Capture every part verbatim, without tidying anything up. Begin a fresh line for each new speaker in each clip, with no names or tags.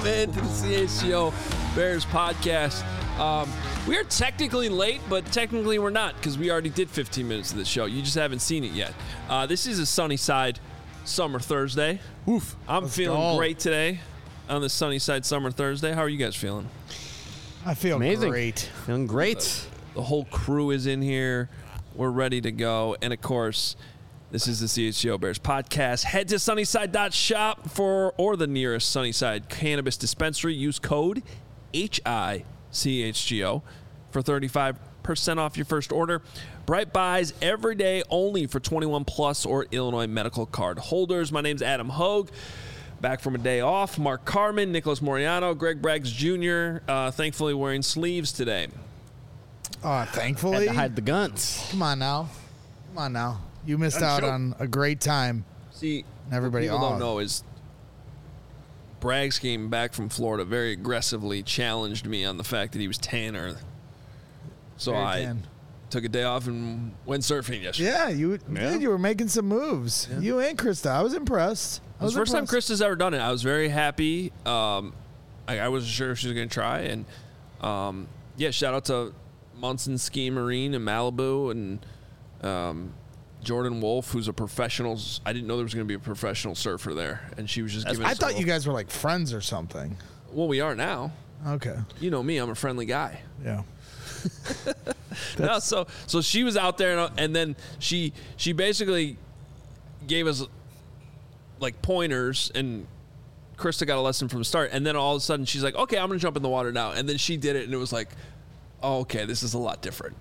in to the C H G O Bears podcast. Um, we are technically late, but technically we're not because we already did fifteen minutes of the show. You just haven't seen it yet. Uh, this is a sunny side summer Thursday.
Oof.
I'm
Let's
feeling
go.
great today on this sunny side summer Thursday. How are you guys feeling?
I feel
Amazing.
great.
Feeling great.
The whole crew is in here. We're ready to go. And, of course, this is the C H G O Bears podcast. Head to sunnyside dot shop for or the nearest Sunnyside cannabis dispensary. Use code H I C H G O for thirty-five percent off your first order. Bright buys every day only for twenty-one plus or Illinois medical card holders. My name's Adam Hogue. Back from a day off. Mark Carman, Nicholas Moriano, Greg Braggs Junior Uh, thankfully wearing sleeves today.
Uh,
Had
thankfully.
to hide the guns.
Come on now. Come on now. You missed
Done
out
show.
on a great time.
See,
And everybody
what people
oh,
don't know is Braggs came back from Florida very aggressively challenged me on the fact that he was tanner. So
Very
I
tan.
took a day off and went surfing yesterday.
Yeah, you
Yeah.
did. You were making some moves.
Yeah.
You and Krista. I was impressed. I
It was the first time
impressed.
Krista's ever done it. I was very happy. Um, I, I wasn't sure if she was going to try. And, um, yeah, shout out to Munson Ski Marine in Malibu and um, Jordan Wolf, who's a professional. I didn't know there was going to be a professional surfer there. And she was just giving
I
us a
thought you
little-
guys were like friends or something.
Well, we are now.
Okay.
You know me. I'm a friendly guy.
Yeah.
No, so so she was out there, and, and then she she basically gave us like pointers, and Krista got a lesson from the start, and then all of a sudden she's like, "Okay, I'm gonna jump in the water now," and then she did it, and it was like, "Oh, okay, this is a lot different.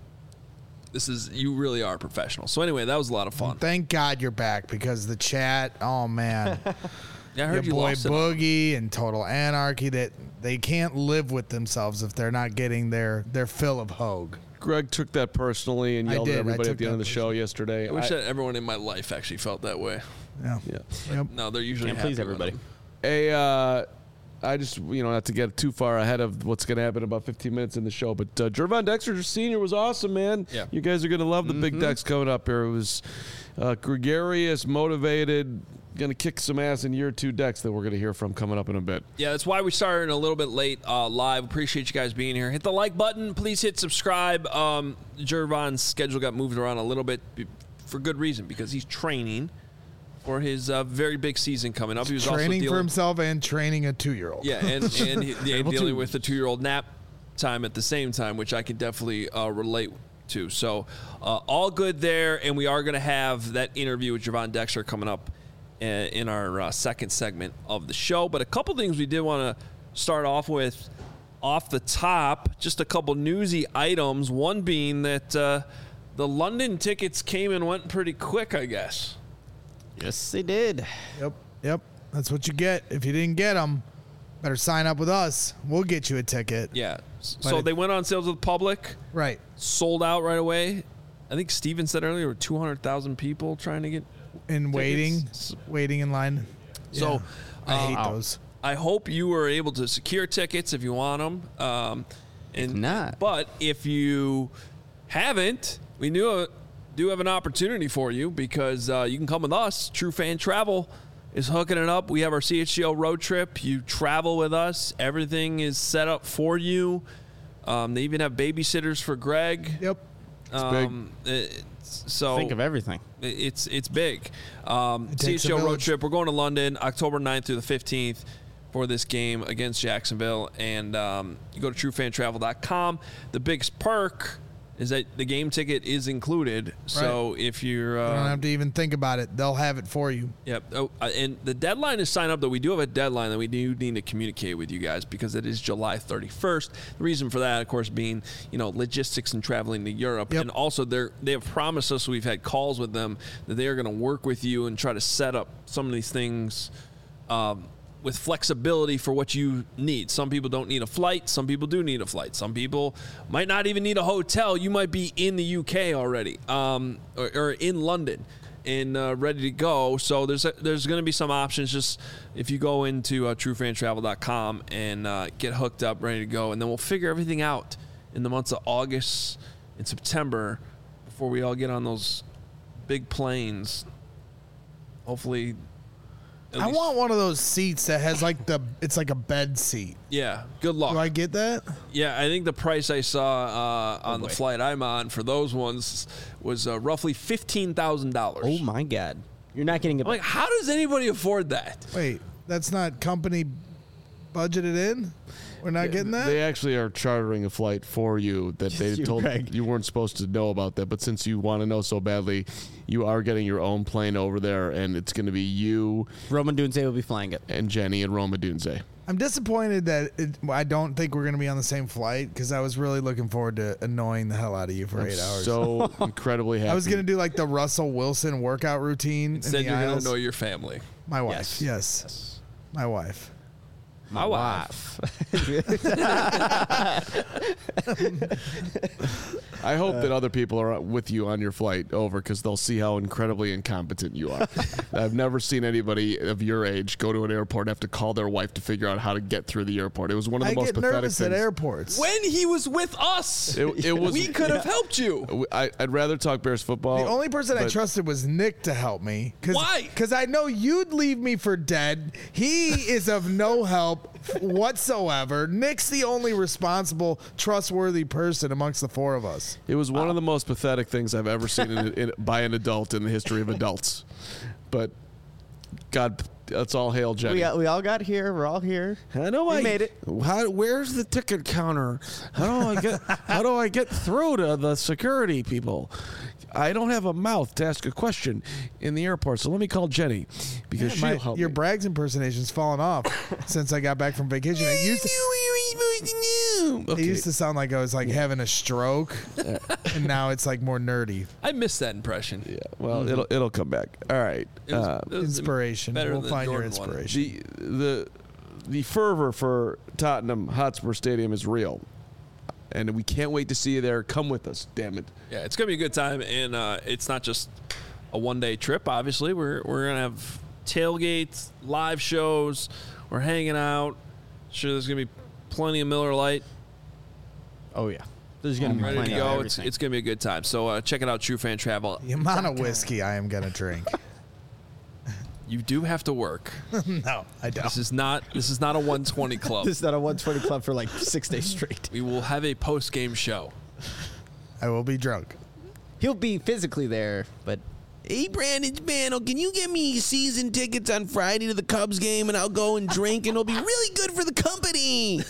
This is you really are professional." So anyway, that was a lot of fun.
Thank God you're back because the chat, oh man.
Yeah, I
Your
heard you
boy
lost it.
Boogie and Total Anarchy, that they can't live with themselves if they're not getting their, their fill of Hogue.
Greg took that personally and
I
yelled
did. I
at everybody
took
at the end of
that
the show yesterday.
I wish
I-
that everyone in my life actually felt that way.
Yeah.
yeah.
Yep.
No, they're usually
Can't
happy
please
when
everybody.
I'm-
A, uh, I just, you know, not to get too far ahead of what's going to happen in about fifteen minutes in the show, but uh, Jervon Dexter Senior was awesome, man.
Yeah.
You guys are going to love the big decks coming up here. It was uh, gregarious, motivated, going to kick some ass in year two decks that we're going to hear from coming up in a bit.
Yeah, that's why we started a little bit late uh, live. Appreciate you guys being here. Hit the like button. Please hit subscribe. Um, Jervon's schedule got moved around a little bit be- for good reason because he's training for his uh, very big season coming up. He was also
Training
dealing,
for himself and training a two-year-old.
Yeah, and, and he, yeah,
Able
dealing
to.
with the two-year-old nap time at the same time, which I can definitely uh, relate to. So uh, all good there, and we are going to have that interview with Jervon Dexter coming up uh, in our uh, second segment of the show. But a couple things we did want to start off with off the top, just a couple newsy items, one being that uh, the London tickets came and went pretty quick, I guess.
Yes, they did.
Yep. Yep. That's what you get. If you didn't get them, better sign up with us. We'll get you a ticket.
Yeah. S-
But
So
it-
they went on sale to the public.
Right.
Sold out right away. I think Steven said earlier, two hundred thousand people trying to get.
In waiting,
Tickets.
waiting in line.
So,
Yeah. I
uh,
hate
Wow.
those.
I hope you were able to secure tickets if you want them. Um, and
not.
But if you haven't, we knew uh, do have an opportunity for you because uh, you can come with us. True Fan Travel is hooking it up. We have our C H G O road trip. You travel with us. Everything is set up for you. Um, they even have babysitters for Greg.
Yep.
Um, it's- so
Think of everything.
it's it's big. Um,
It takes a
C H G O road
village.
trip. We're going to London October ninth through the fifteenth for this game against Jacksonville. And um, you go to true fan travel dot com. The biggest perk is that the game ticket is included. So if you're...
You don't
Uh,
have to even think about it. They'll have it for you.
Yep. Oh, uh, and the deadline is sign up, though. We do have a deadline that we do need to communicate with you guys because it is July thirty-first. The reason for that, of course, being, you know, logistics and traveling to Europe.
Yep.
And also, they're, they have promised us, we've had calls with them, that they are going to work with you and try to set up some of these things um, with flexibility for what you need. Some people don't need a flight. Some people do need a flight. Some people might not even need a hotel. You might be in the U K already um, or, or in London and uh, ready to go. So there's a, there's going to be some options. Just if you go into uh, true fan travel dot com and uh, get hooked up, ready to go, and then we'll figure everything out in the months of August and September before we all get on those big planes. Hopefully At
I
least-
want one of those seats that has like the it's like a bed seat.
Yeah, good luck.
Do I get that?
Yeah, I think the price I saw uh, on the
boy.
flight I'm on for those ones was uh, roughly fifteen thousand dollars.
Oh my God. You're not getting a.
I'm like, how does anybody afford that?
Wait, that's not company budgeted in? We're not getting that?
They actually are chartering a flight for you that they
You,
told
Greg.
you weren't supposed to know about that. But since you want to know so badly, you are getting your own plane over there, and it's going to be you
Roman Dunze will be flying it.
and Jenny and Roma Dunze.
I'm disappointed that it, I don't think we're going to be on the same flight because I was really looking forward to annoying the hell out of you for
I'm
eight hours.
so incredibly happy.
I was going to do like the Russell Wilson workout routine.
Instead,
in the
you're going
aisles.
to know your family.
My wife.
Yes.
Yes. My wife.
My wife.
I hope
Uh,
that other people are with you on your flight over because they'll see how incredibly incompetent you are. I've never seen anybody of your age go to an airport and have to call their wife to figure out how to get through the airport. It was one of the
I
most
get
pathetic
nervous
things.
at airports.
When he was with us,
It, it was.
we could have helped you.
I, I'd rather talk Bears football.
The only person I
but-
trusted was Nick to help me. Cause,
Why?
Because I know you'd leave me for dead. He is of no help whatsoever. Nick's the only responsible, trustworthy person amongst the four of us.
It was one of the most pathetic things I've ever seen in, in, by an adult in the history of adults. But God, that's all hail Jenny.
we, we all got here. We're all here.
How do
We
I
made it.
How, where's the ticket counter? How do I get? How do I get through to the security people? I don't have a mouth to ask a question in the airport, so let me call Jenny because she'll
My-
help
your
me.
Braggs impersonation's fallen off since I got back from vacation. It used to, it
Okay.
used to sound like I was like having a stroke, and now it's like more nerdy.
I missed that impression.
Yeah, well, it'll it'll come back. All right.
It was-
Uh,
it was
Inspiration.
better
We'll
than
find your
Jordan one.
inspiration.
the the the fervor for Tottenham Hotspur Stadium is real, and we can't wait to see you there. Come with us, damn it!
Yeah, it's gonna be a good time, and uh, it's not just a one-day trip. Obviously, we're we're gonna have tailgates, live shows. We're hanging out. Sure, there's gonna be plenty of Miller Lite
Oh yeah. There's gonna be
ready
plenty
to
of
go. It's
everything.
it's gonna be a good time. So uh, check it out, True Fan Travel.
The amount of whiskey I am gonna drink.
You do have to work.
No, I don't.
This is not this is not a one twenty club.
This is not a one twenty club for like six days straight.
We will have a post-game show.
I will be drunk.
He'll be physically there, but
Hey, Brandon Spano, can you get me season tickets on Friday to the Cubs game, and I'll go and drink, and it'll be really good for the company.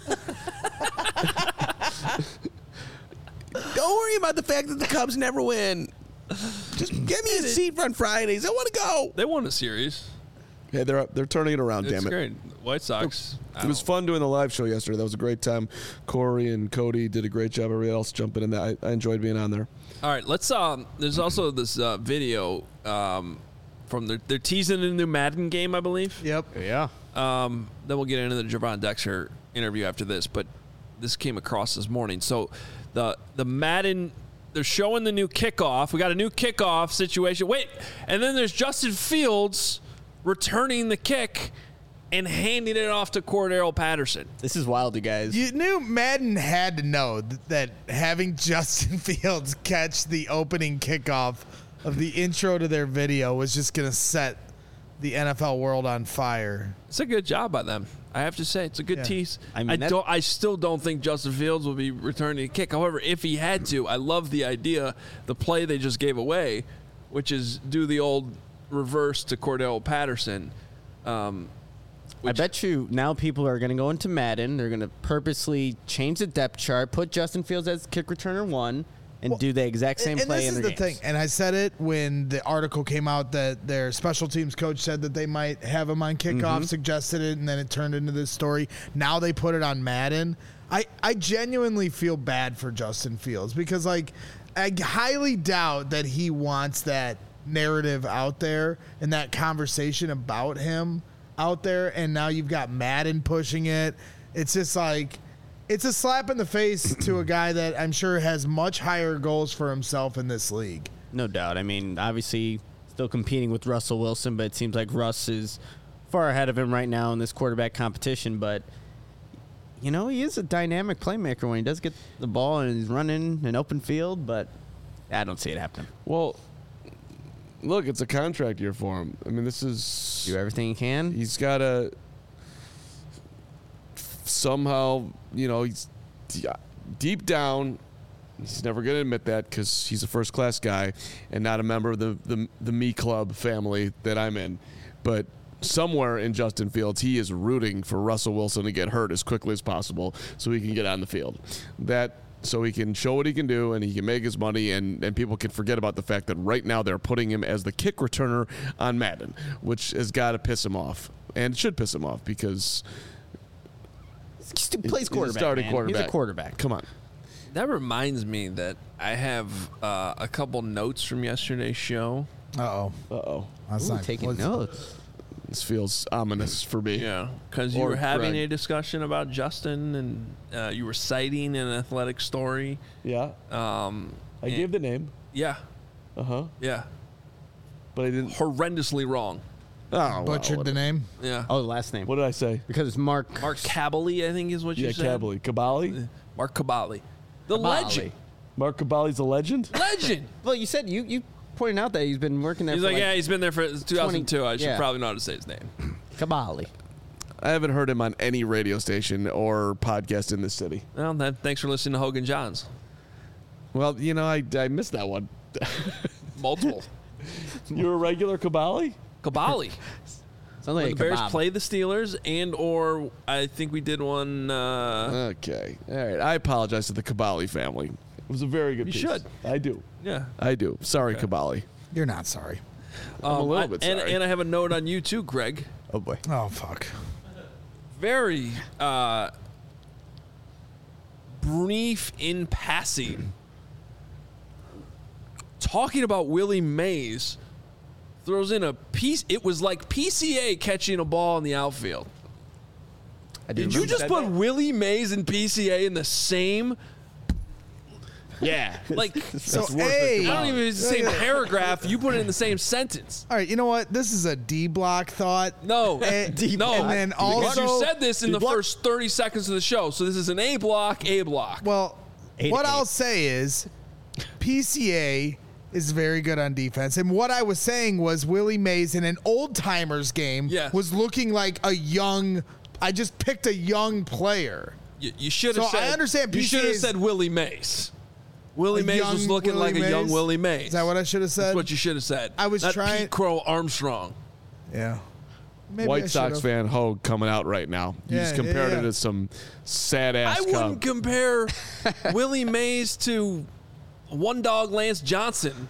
Don't worry about the fact that the Cubs never win. Just get me a seat on Fridays. I want to go.
They won a series.
Yeah, they're they're turning it around.
It's
damn it!
great. White Sox.
It was fun doing the live show yesterday. That was a great time. Corey and Cody did a great job. Everybody else jumping in there. I, I enjoyed being on there.
All right, let's. Um, there's also this uh, video um, from their, they're teasing a new Madden game, I believe.
Yep.
yeah.
Um, then we'll get into the Javon Dexter interview after this, but this came across this morning. So the the Madden, they're showing the new kickoff. We got a new kickoff situation. Wait, and then there's Justin Fields returning the kick and handing it off to Cordero Patterson.
This is wild, you guys.
You knew Madden had to know th- that having Justin Fields catch the opening kickoff of the intro to their video was just going to set the N F L world on fire.
It's a good job by them. I have to say, it's a good
Yeah.
tease.
I
I,
mean, that-
don't. I still don't think Justin Fields will be returning a kick. However, if he had to, I love the idea, the play they just gave away, which is do the old reverse to Cordell Patterson. Um,
I bet you now people are going to go into Madden. They're going to purposely change the depth chart, put Justin Fields as kick returner one, and
Well,
do the exact same
and
play
this
in
is
their
the
games.
thing, and I said it when the article came out that their special teams coach said that they might have him on kickoff,
Mm-hmm.
suggested it, and then it turned into this story. Now they put it on Madden. I, I genuinely feel bad for Justin Fields because, like, I highly doubt that he wants that narrative out there and that conversation about him out there. And now you've got Madden pushing it. It's just like, it's a slap in the face to a guy that I'm sure has much higher goals for himself in this league.
No doubt. I mean, obviously, still competing with Russell Wilson, but it seems like Russ is far ahead of him right now in this quarterback competition. But, you know, he is a dynamic playmaker when he does get the ball and he's running an open field, but I don't see it happening.
Well, look, it's a contract year for him. I mean, this is
Do everything you can.
he's got to somehow, you know, he's deep down. He's never going to admit that because he's a first-class guy and not a member of the, the the me club family that I'm in. But somewhere in Justin Fields, he is rooting for Russell Wilson to get hurt as quickly as possible so he can get on the field. That so he can show what he can do and he can make his money, and, and people can forget about the fact that right now they're putting him as the kick returner on Madden, which has got to piss him off. And it should piss him off because
He plays
he's a
quarterback.
starting
man.
quarterback.
He's a quarterback.
Come on.
That reminds me that I have uh, a couple notes from yesterday's show.
Uh-oh.
Uh-oh.
That's
Ooh,
not
taking
what's-
notes.
This feels ominous for me.
Yeah, because you
Or
were having
Greg.
a discussion about Justin, and uh, you were citing an athletic story.
Yeah.
Um,
I
and-
gave the name.
Yeah,
Uh-huh.
yeah,
But I didn't.
horrendously wrong.
Oh, well,
Butchered the
whatever.
name.
Yeah,
Oh, the last name.
What did I say?
Because it's Mark.
Mark Cabali, I think is what you
Yeah,
said.
Cabali. Cabali?
Mark Cabali, the
Cabali.
legend,
Mark Cabali's a legend?
legend.
Well, you said you you pointed out that he's been working there.
He's
for
like,
like,
yeah, he's been there for two thousand two. I should
yeah.
probably know how to say his name.
Cabali.
I haven't heard him on any radio station or podcast in this city.
Well, then, thanks for listening to Hogan Johns.
Well, you know, I, I missed that one.
Multiple.
You're a regular Cabali?
Cabali.
Sounds
When
like
the
a
Bears
kebab.
play the Steelers, and or I think we did one. Uh,
Okay. All right. I apologize to the Cabali family. It was a very good
You
piece.
should.
I do.
yeah.
I do. Sorry,
Okay.
Cabali.
You're not sorry.
I'm a little
I-
bit
and,
sorry.
and I have a note on you too, Greg.
Oh boy.
Oh, fuck.
Very uh, brief in passing. Talking about Willie Mays throws in a piece. It was like P C A catching a ball in the outfield.
I do
Did you
remember
just
that
put
day.
Willie Mays and P C A in the same?
Yeah.
Like,
So,
worth it.
hey.
I don't even use the same paragraph. You put it in the same sentence.
All right, you know what? This is a D block thought.
No,
And,
no.
and then
because
also,
you said this in
D
the
block-
first thirty seconds of the show. So this is an A block, A block.
Well,
Eight
what
to
I'll
eight.
say is P C A is very good on defense. And what I was saying was Willie Mays in an old timers game
Yes.
was looking like a young, I just picked a young player.
You, you should have
So
said.
I understand
You
P C
should have
A's
said Willie Mays. Willie
A
Mays was
young
looking
Willie
like a young
Mays?
Willie Mays.
Is that what I should have said?
That's what you should have said.
I was
Not
trying-
Pete Crow Armstrong.
Yeah. Maybe I
White Sox
should've.
fan Hogue coming out right now. You
Yeah,
just
yeah,
compared
yeah.
it to some sad ass
I wouldn't
Cub.
compare Willie Mays to one dog Lance Johnson.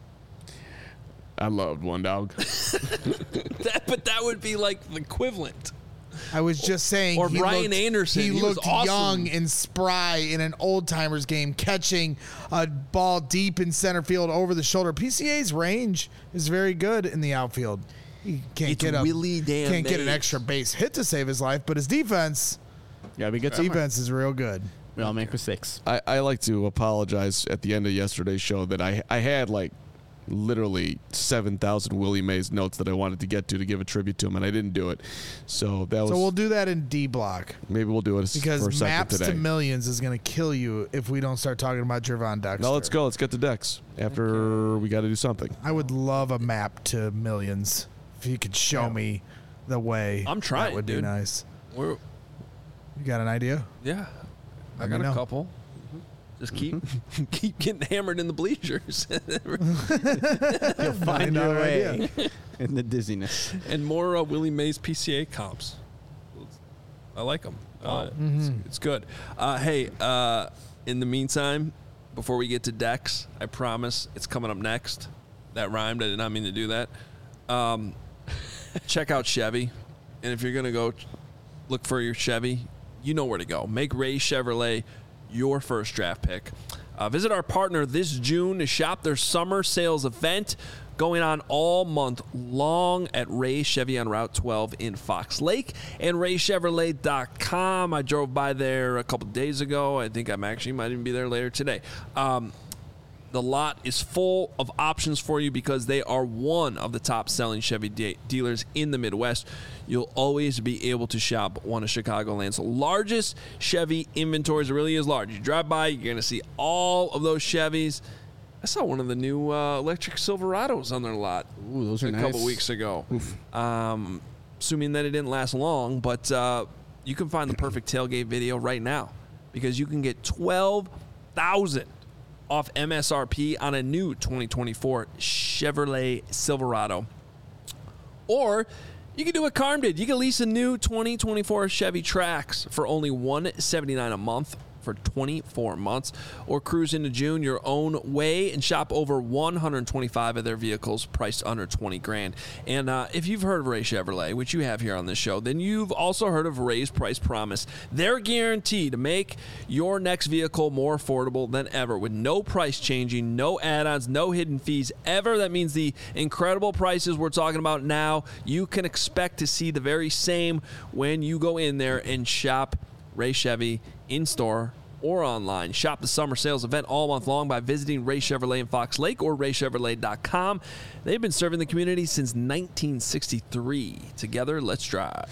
I loved One Dog.
That, but that would be like the equivalent.
I was just saying.
Or
he
Brian
looked,
Anderson,
He,
he was
looked
awesome.
young and spry in an old timers game, catching a ball deep in center field over the shoulder. P C A's range is very good in the outfield. He can't
It's
get a
Willie damn
can't get an
Mays.
extra base hit to save his life, but his defense
Yeah, we good. somewhere.
defense is real good.
We all make mistakes.
I, I like to apologize at the end of yesterday's show that I I had like literally seven thousand Willie Mays notes that I wanted to get to to give a tribute to him, and I didn't do it. So that was
So we'll do that in D block
maybe we'll do it for a
because
second
maps
today.
to millions is going to kill you if we don't start talking about Jervon Dexter.
Now let's go. Let's get to Dex. After we got to do something.
I would love a map to millions if you could show me the way.
I'm trying,
That would be
dude.
nice.
We're,
You got an idea?
yeah, I
Let
got
me
a
know.
couple. Just keep keep getting hammered in the bleachers.
You'll find
know
your
our
way in the dizziness.
And more uh, Willie Mays P C A comps. I like them. Uh, it's, it's good. Uh, hey, uh, in the meantime, before we get to Dex, I promise it's coming up next. That rhymed. I did not mean to do that. Um, check out Chevy. And if you're going to go look for your Chevy, you know where to go. Make Ray Chevrolet your first draft pick. Uh, visit our partner this June to shop their summer sales event going on all month long at Ray Chevy on Route twelve in Fox Lake and ray chevrolet dot com. I drove by there a couple days ago. I think I'm actually might even be there later today. Um, The lot is full of options for you because they are one of the top selling Chevy de- dealers in the Midwest. You'll always be able to shop one of Chicagoland's largest Chevy inventories. It really is large. You drive by, you're going to see all of those Chevys. I saw one of the new uh, electric Silverados on their lot.
Ooh, those are
a
nice.
couple weeks ago. Um, assuming that it didn't last long, but uh, you can find the perfect tailgate video right now because you can get twelve thousand dollars off M S R P on a new twenty twenty-four Chevrolet Silverado. Or you can do what Carm did. You can lease a new twenty twenty-four Chevy Trax for only one hundred seventy-nine dollars a month for twenty-four months, or cruise into June your own way and shop over one hundred twenty-five of their vehicles priced under twenty grand. And uh, if you've heard of Ray Chevrolet, which you have here on this show, then you've also heard of Ray's Price Promise. They're guaranteed to make your next vehicle more affordable than ever with no price changing, no add-ons, no hidden fees ever. That means the incredible prices we're talking about now, you can expect to see the very same when you go in there and shop Ray Chevy in-store or online. Shop the summer sales event all month long by visiting Ray Chevrolet in Fox Lake or ray chevrolet dot com. They've been serving the community since nineteen sixty-three. Together, let's drive.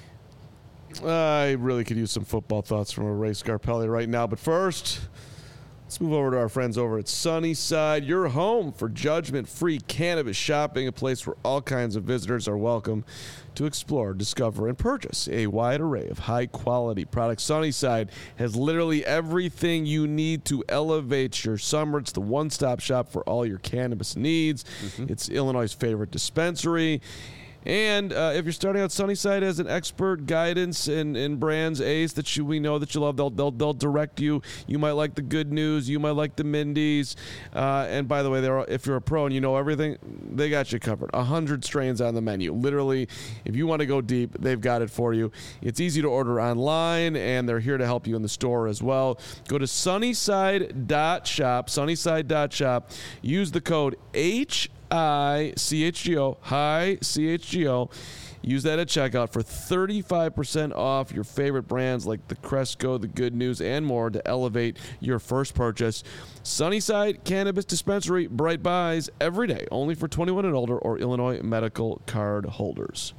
I really could use some football thoughts from a Ray Scarpelli right now, but first, let's move over to our friends over at Sunnyside, your home for judgment-free cannabis shopping, a place where all kinds of visitors are welcome to explore, discover, and purchase a wide array of high-quality products. Sunnyside has literally everything you need to elevate your summer. It's the one-stop shop for all your cannabis needs. Mm-hmm. It's Illinois' favorite dispensary. And uh, if you're starting out, Sunnyside has an expert guidance in, in brands, Ace, that you, we know that you love. They'll, they'll, they'll direct you. You might like the Good News. You might like the Mindy's. Uh, and by the way, they're, if you're a pro and you know everything, they got you covered. A hundred strains on the menu. Literally, if you want to go deep, they've got it for you. It's easy to order online, and they're here to help you in the store as well. Go to sunnyside dot shop, sunnyside dot shop. Use the code H I C H G O, hi C H G O. Use that at checkout for thirty-five percent off your favorite brands like the Cresco, the Good News, and more to elevate your first purchase. Sunnyside Cannabis Dispensary, bright buys every day, only for twenty-one and older or Illinois medical card holders.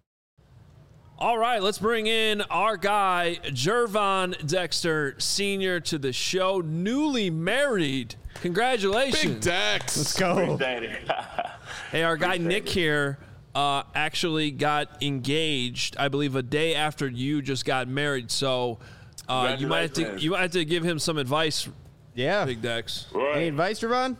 All right, let's bring in our guy, Gervon Dexter Senior, to the show, newly married. Congratulations.
Big Dex.
Let's go.
Hey, our guy Nick here uh, actually got engaged, I believe, a day after you just got married. So uh, you might have to you might have to give him some advice.
Yeah.
Big Dex.
Right.
Any advice, Ravon?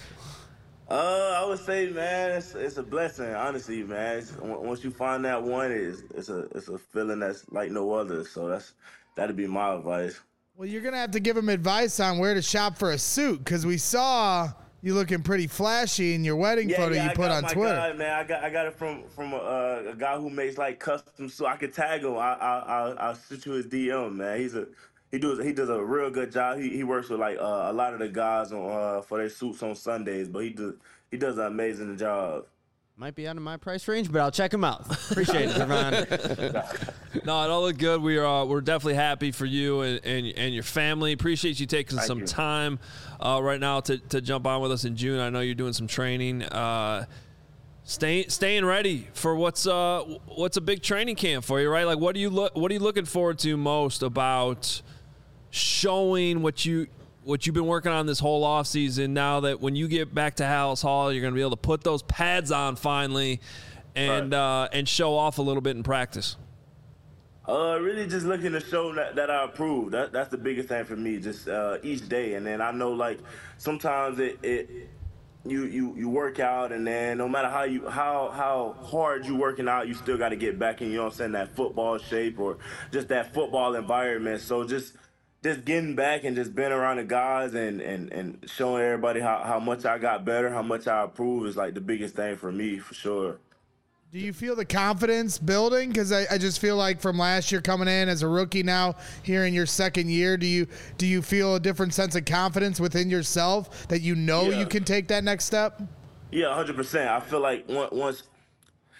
Uh, I would say, man, it's, it's a blessing, honestly, man. It's, once you find that one, it's, it's a it's a feeling that's like no other. So that's that'd be my advice.
Well, you're going to have to give him advice on where to shop for a suit because we saw you looking pretty flashy in your wedding
Yeah,
photo
yeah,
you
I
put
got
on
my
Twitter.
guy, man. I got I got it from from a, uh, a guy who makes like custom suits. I could tag him. I I I'll, I'll shoot you his D M, man. He's a he does he does a real good job. He he works with like uh, a lot of the guys on uh, for their suits on Sundays, but he does he does an amazing job.
Might be out of my price range, but I'll check him out. Appreciate it, Ravon.
No, it all looked good. We are uh, we're definitely happy for you and, and, and your family. Appreciate you taking
Thank
some
you.
time uh, right now to, to jump on with us in June. I know you're doing some training. Uh, stay, staying ready for what's uh what's a big training camp for you, right? Like, what do you look what are you looking forward to most about showing what you what you've been working on this whole off season? Now that when you get back to Hallis Hall, you're going to be able to put those pads on finally, and
Right.
uh, and show off a little bit in practice.
Uh, really just looking to show that, that I approve. That that's the biggest thing for me, just uh, each day. And then I know like sometimes it, it you you you work out, and then no matter how you how how hard you working out, you still got to get back in, you know what I'm saying, that football shape or just that football environment. So just just getting back and just being around the guys and, and, and showing everybody how, how much I got better, how much I improve is like the biggest thing for me, for sure.
Do you feel the confidence building? Because I, I just feel like from last year coming in as a rookie now here in your second year, do you do you feel a different sense of confidence within yourself that you know
Yeah.
you can take that next step?
Yeah, one hundred percent. I feel like on- once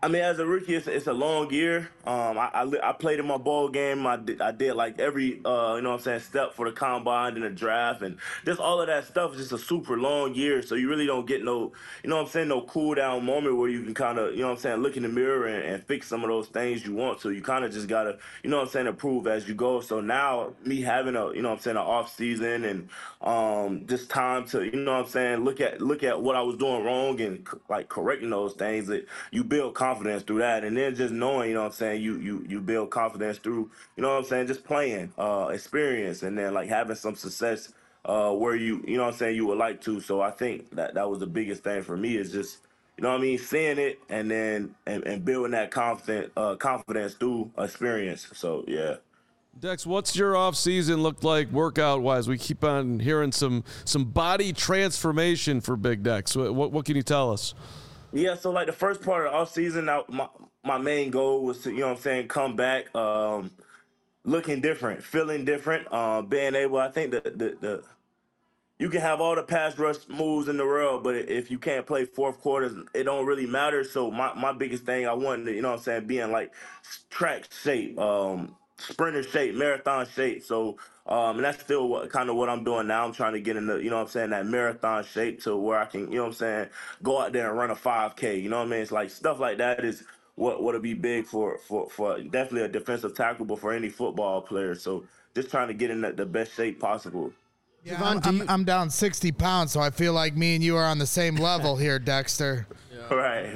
I mean, as a rookie, it's, it's a long year. Um, I, I, I played in my bowl game. I did, I did like every, uh, you know what I'm saying, step for the combine and the draft. And just all of that stuff is just a super long year. So you really don't get no, you know what I'm saying, no cool down moment where you can kind of, you know what I'm saying, look in the mirror and, and fix some of those things you want. So you kind of just got to, you know what I'm saying, improve as you go. So now me having a, you know what I'm saying, an off season and um, just time to, you know what I'm saying, look at look at what I was doing wrong and like correcting those things, that you build confidence confidence through that, and then just knowing, you know what I'm saying, you you you build confidence through, you know what I'm saying, just playing, uh, experience, and then like having some success uh, where you, you know what I'm saying, you would like to. So I think that that was the biggest thing for me, is just, you know what I mean, seeing it and then and, and building that confident uh, confidence through experience. So yeah.
Dex, what's your off season look like workout wise? We keep on hearing some some body transformation for Big Dex. What what, what can you tell us?
Yeah, so like the first part of the off season, I, my my main goal was to, you know what I'm saying, come back um, looking different, feeling different, uh, being able. I think the, the the you can have all the pass rush moves in the world, but if you can't play fourth quarters, it don't really matter. So my, my biggest thing, I wanted to, you know what I'm saying, be in like track shape, um, sprinter shape, marathon shape. So um, and that's still what, kind of what I'm doing now. I'm trying to get in the, you know what I'm saying, that marathon shape to where I can, you know what I'm saying, go out there and run a five K. You know what I mean? It's like stuff like that is what would be big for, for, for definitely a defensive tackle, but for any football player. So just trying to get in the, the best shape possible.
Yeah,
Javon,
I'm,
you-
I'm, I'm down sixty pounds, so I feel like me and you are on the same level here, Dexter.
Yeah.
Right.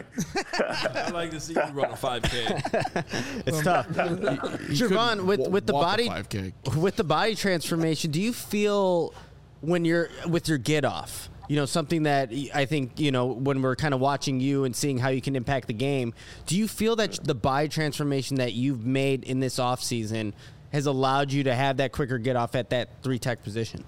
I'd like to see you run a five K.
It's tough. Javon, with
wa-
with the
walk a
body
five K.
with the body transformation, do you feel when you're with your get off? You know, something that I think, you know, when we're kind of watching you and seeing how you can impact the game, do you feel that the body transformation that you've made in this offseason has allowed you to have that quicker get off at that three tech position?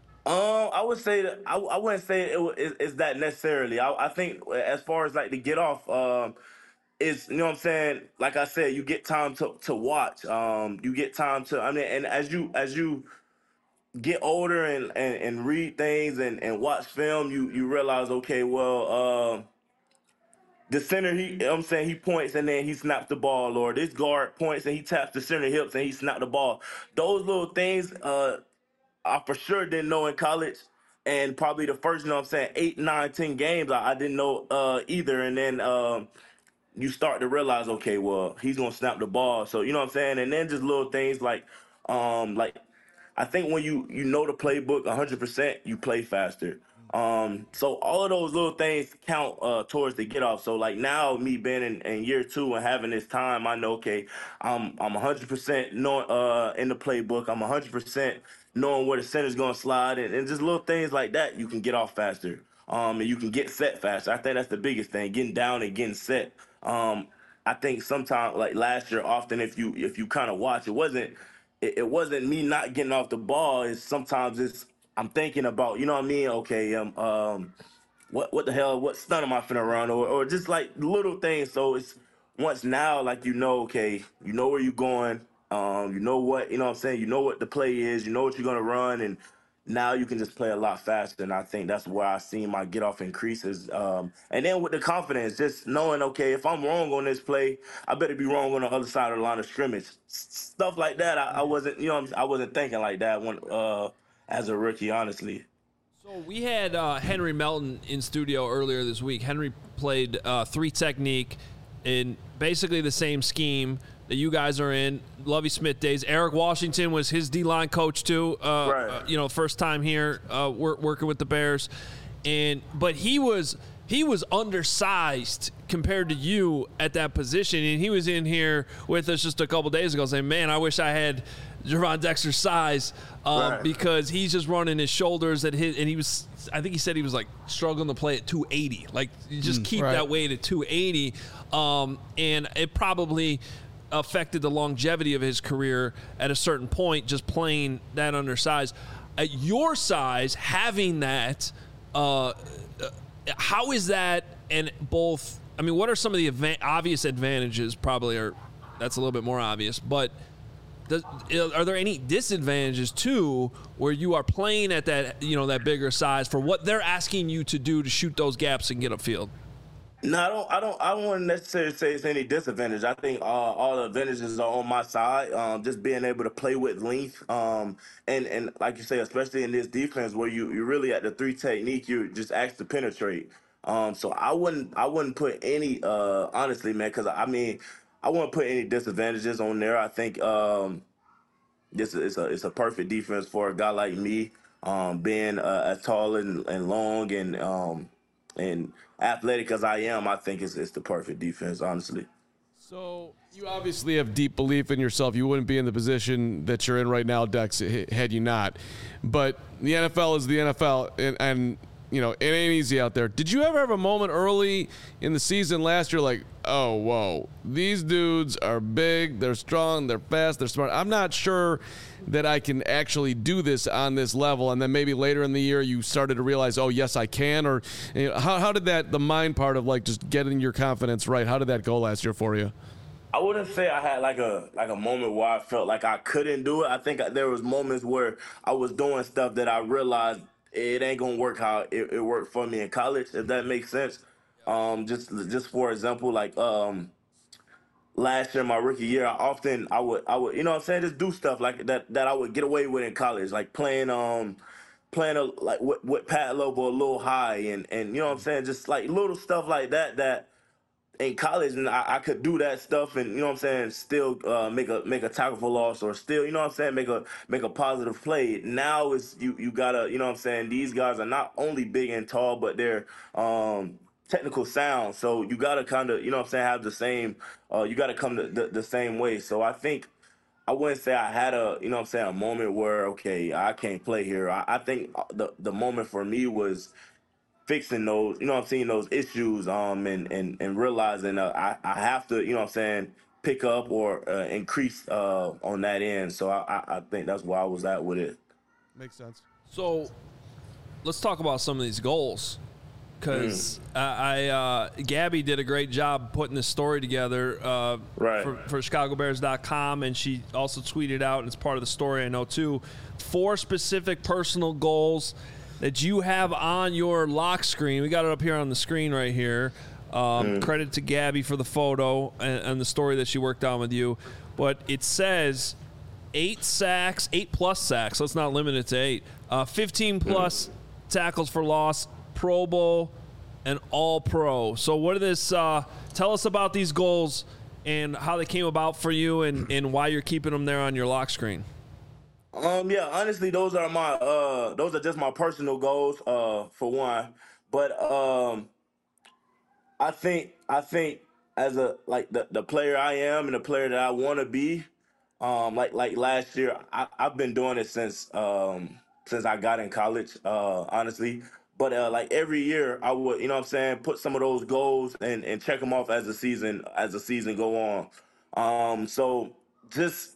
Um, I would say that I, I wouldn't say it, wa- it is that necessarily. I, I think as far as like the get off, um, is, you know what I'm saying. Like I said, you get time to, to watch. Um, you get time to. I mean, and as you as you get older and, and, and read things and, and watch film, you you realize, okay, well, uh, the center, he, you know what I'm saying, he points and then he snaps the ball, or this guard points and he taps the center hips and he snaps the ball. Those little things, uh. I for sure didn't know in college, and probably the first, you know what I'm saying, eight, nine, ten games, I, I didn't know uh, either. And then um, you start to realize, okay, well, he's gonna snap the ball. So you know what I'm saying? And then just little things like, um, like I think when you you know the playbook one hundred percent, you play faster. Um, so all of those little things count uh, towards the get off. So like now, me being in, in year two and having this time, I know, okay, I'm I'm one hundred percent knowing uh, in the playbook. I'm one hundred percent knowing where the center's gonna slide, and, and just little things like that, you can get off faster. Um, and you can get set faster. I think that's the biggest thing, getting down and getting set. Um, I think sometimes, like last year, often if you if you kind of watch, it wasn't it, it wasn't me not getting off the ball. It's sometimes it's I'm thinking about, you know what I mean? Okay, um, um, what what the hell? What stunt am I finna run? Or or just like little things. So it's once now, like you know, okay, you know where you're going. Um, you know what, you know what I'm saying? You know what the play is. You know what you're gonna run, and now you can just play a lot faster. And I think that's where I seen my get off increases. Um, and then with the confidence, just knowing, okay, if I'm wrong on this play, I better be wrong on the other side of the line of scrimmage. S- stuff like that. I, I wasn't, you know, I wasn't thinking like that when. Uh, as a rookie, honestly.
So we had uh, Henry Melton in studio earlier this week. Henry played uh, three technique in basically the same scheme that you guys are in. Lovie Smith days. Eric Washington was his D-line coach too. Uh,
Right.
uh, you know, first time here uh, work, working with the Bears, and but he was he was undersized compared to you at that position, and he was in here with us just a couple days ago saying, "Man, I wish I had Javon Dexter's size um,
Right.
because he's just running his shoulders at his, and he was, I think he said he was like struggling to play at two eighty. Like you just keep
right.
that weight at two eighty, um, and it probably affected the longevity of his career at a certain point, just playing that undersized. At your size, having that, uh, how is that? And both, I mean, what are some of the adva- obvious advantages? Probably are, that's a little bit more obvious, but does, are there any disadvantages too, where you are playing at that, you know, that bigger size for what they're asking you to do to shoot those gaps and get upfield?
No, I don't. I don't. I don't want to necessarily say it's any disadvantage. I think uh, all the advantages are on my side. Um, just being able to play with length, um, and and like you say, especially in this defense where you you really at the three technique, you just asked to penetrate. Um, so I wouldn't I wouldn't put any uh, honestly, man, because I mean I wouldn't put any disadvantages on there. I think um, this is a it's a perfect defense for a guy like me, um, being uh, as tall and, and long and um, and athletic as I am. I think it's it's the perfect defense, honestly.
So you obviously have deep belief in yourself. You wouldn't be in the position that you're in right now, Dex, had you not. But the N F L is the N F L, and, and you know it ain't easy out there. Did you ever have a moment early in the season last year, like, oh, whoa, these dudes are big, they're strong, they're fast, they're smart. I'm not sure that I can actually do this on this level, and then maybe later in the year you started to realize, oh, yes, I can, or you know, how, how did that, the mind part of like just getting your confidence right, how did that go last year for you?
I wouldn't say I had like a like a moment where I felt like I couldn't do it. I think there was moments where I was doing stuff that I realized it ain't gonna work how it, it worked for me in college, if that makes sense. Um, just just for example, like um, last year, my rookie year, I often I would I would you know what I'm saying, just do stuff like that that I would get away with in college, like playing um playing a like with, with pad level a little high and and you know what I'm saying, just like little stuff like that that in college and I, I could do that stuff and you know what I'm saying, still uh, make a make a tackle for loss or still, you know what I'm saying, make a make a positive play. Now it's you you gotta, you know what I'm saying, these guys are not only big and tall, but they're um technical sound. So you gotta kinda, you know what I'm saying, have the same uh you gotta come the, the, the same way. So I think I wouldn't say I had a, you know what I'm saying, a moment where, okay, I can't play here. I, I think the the moment for me was fixing those, you know what I'm saying, those issues, um, and and and realizing uh, I I have to, you know what I'm saying, pick up or uh, increase uh on that end. So I, I I think that's where I was at with it.
Makes sense.
So let's talk about some of these goals. Because mm. I, I uh, Gabby did a great job putting this story together uh,
right.
for, for Chicago Bears dot com, and she also tweeted out, and it's part of the story, I know, too, four specific personal goals that you have on your lock screen. We got it up here on the screen right here. Um, mm. Credit to Gabby for the photo and, and the story that she worked on with you. But it says eight sacks, eight-plus sacks. Let's not limit it to eight. Uh, fifteen-plus mm. tackles for loss, Pro Bowl, and All-Pro. So what are this? Uh, tell us about these goals and how they came about for you and, and why you're keeping them there on your lock screen.
Um, yeah, honestly, those are my uh, those are just my personal goals. Uh, for one, but um, I think I think as a like the, the player I am and the player that I want to be, um, like like last year, I, I've been doing it since um since I got in college. Uh, honestly. But uh, like every year, I would, you know what I'm saying, put some of those goals and, and check them off as the season as the season go on. Um, so just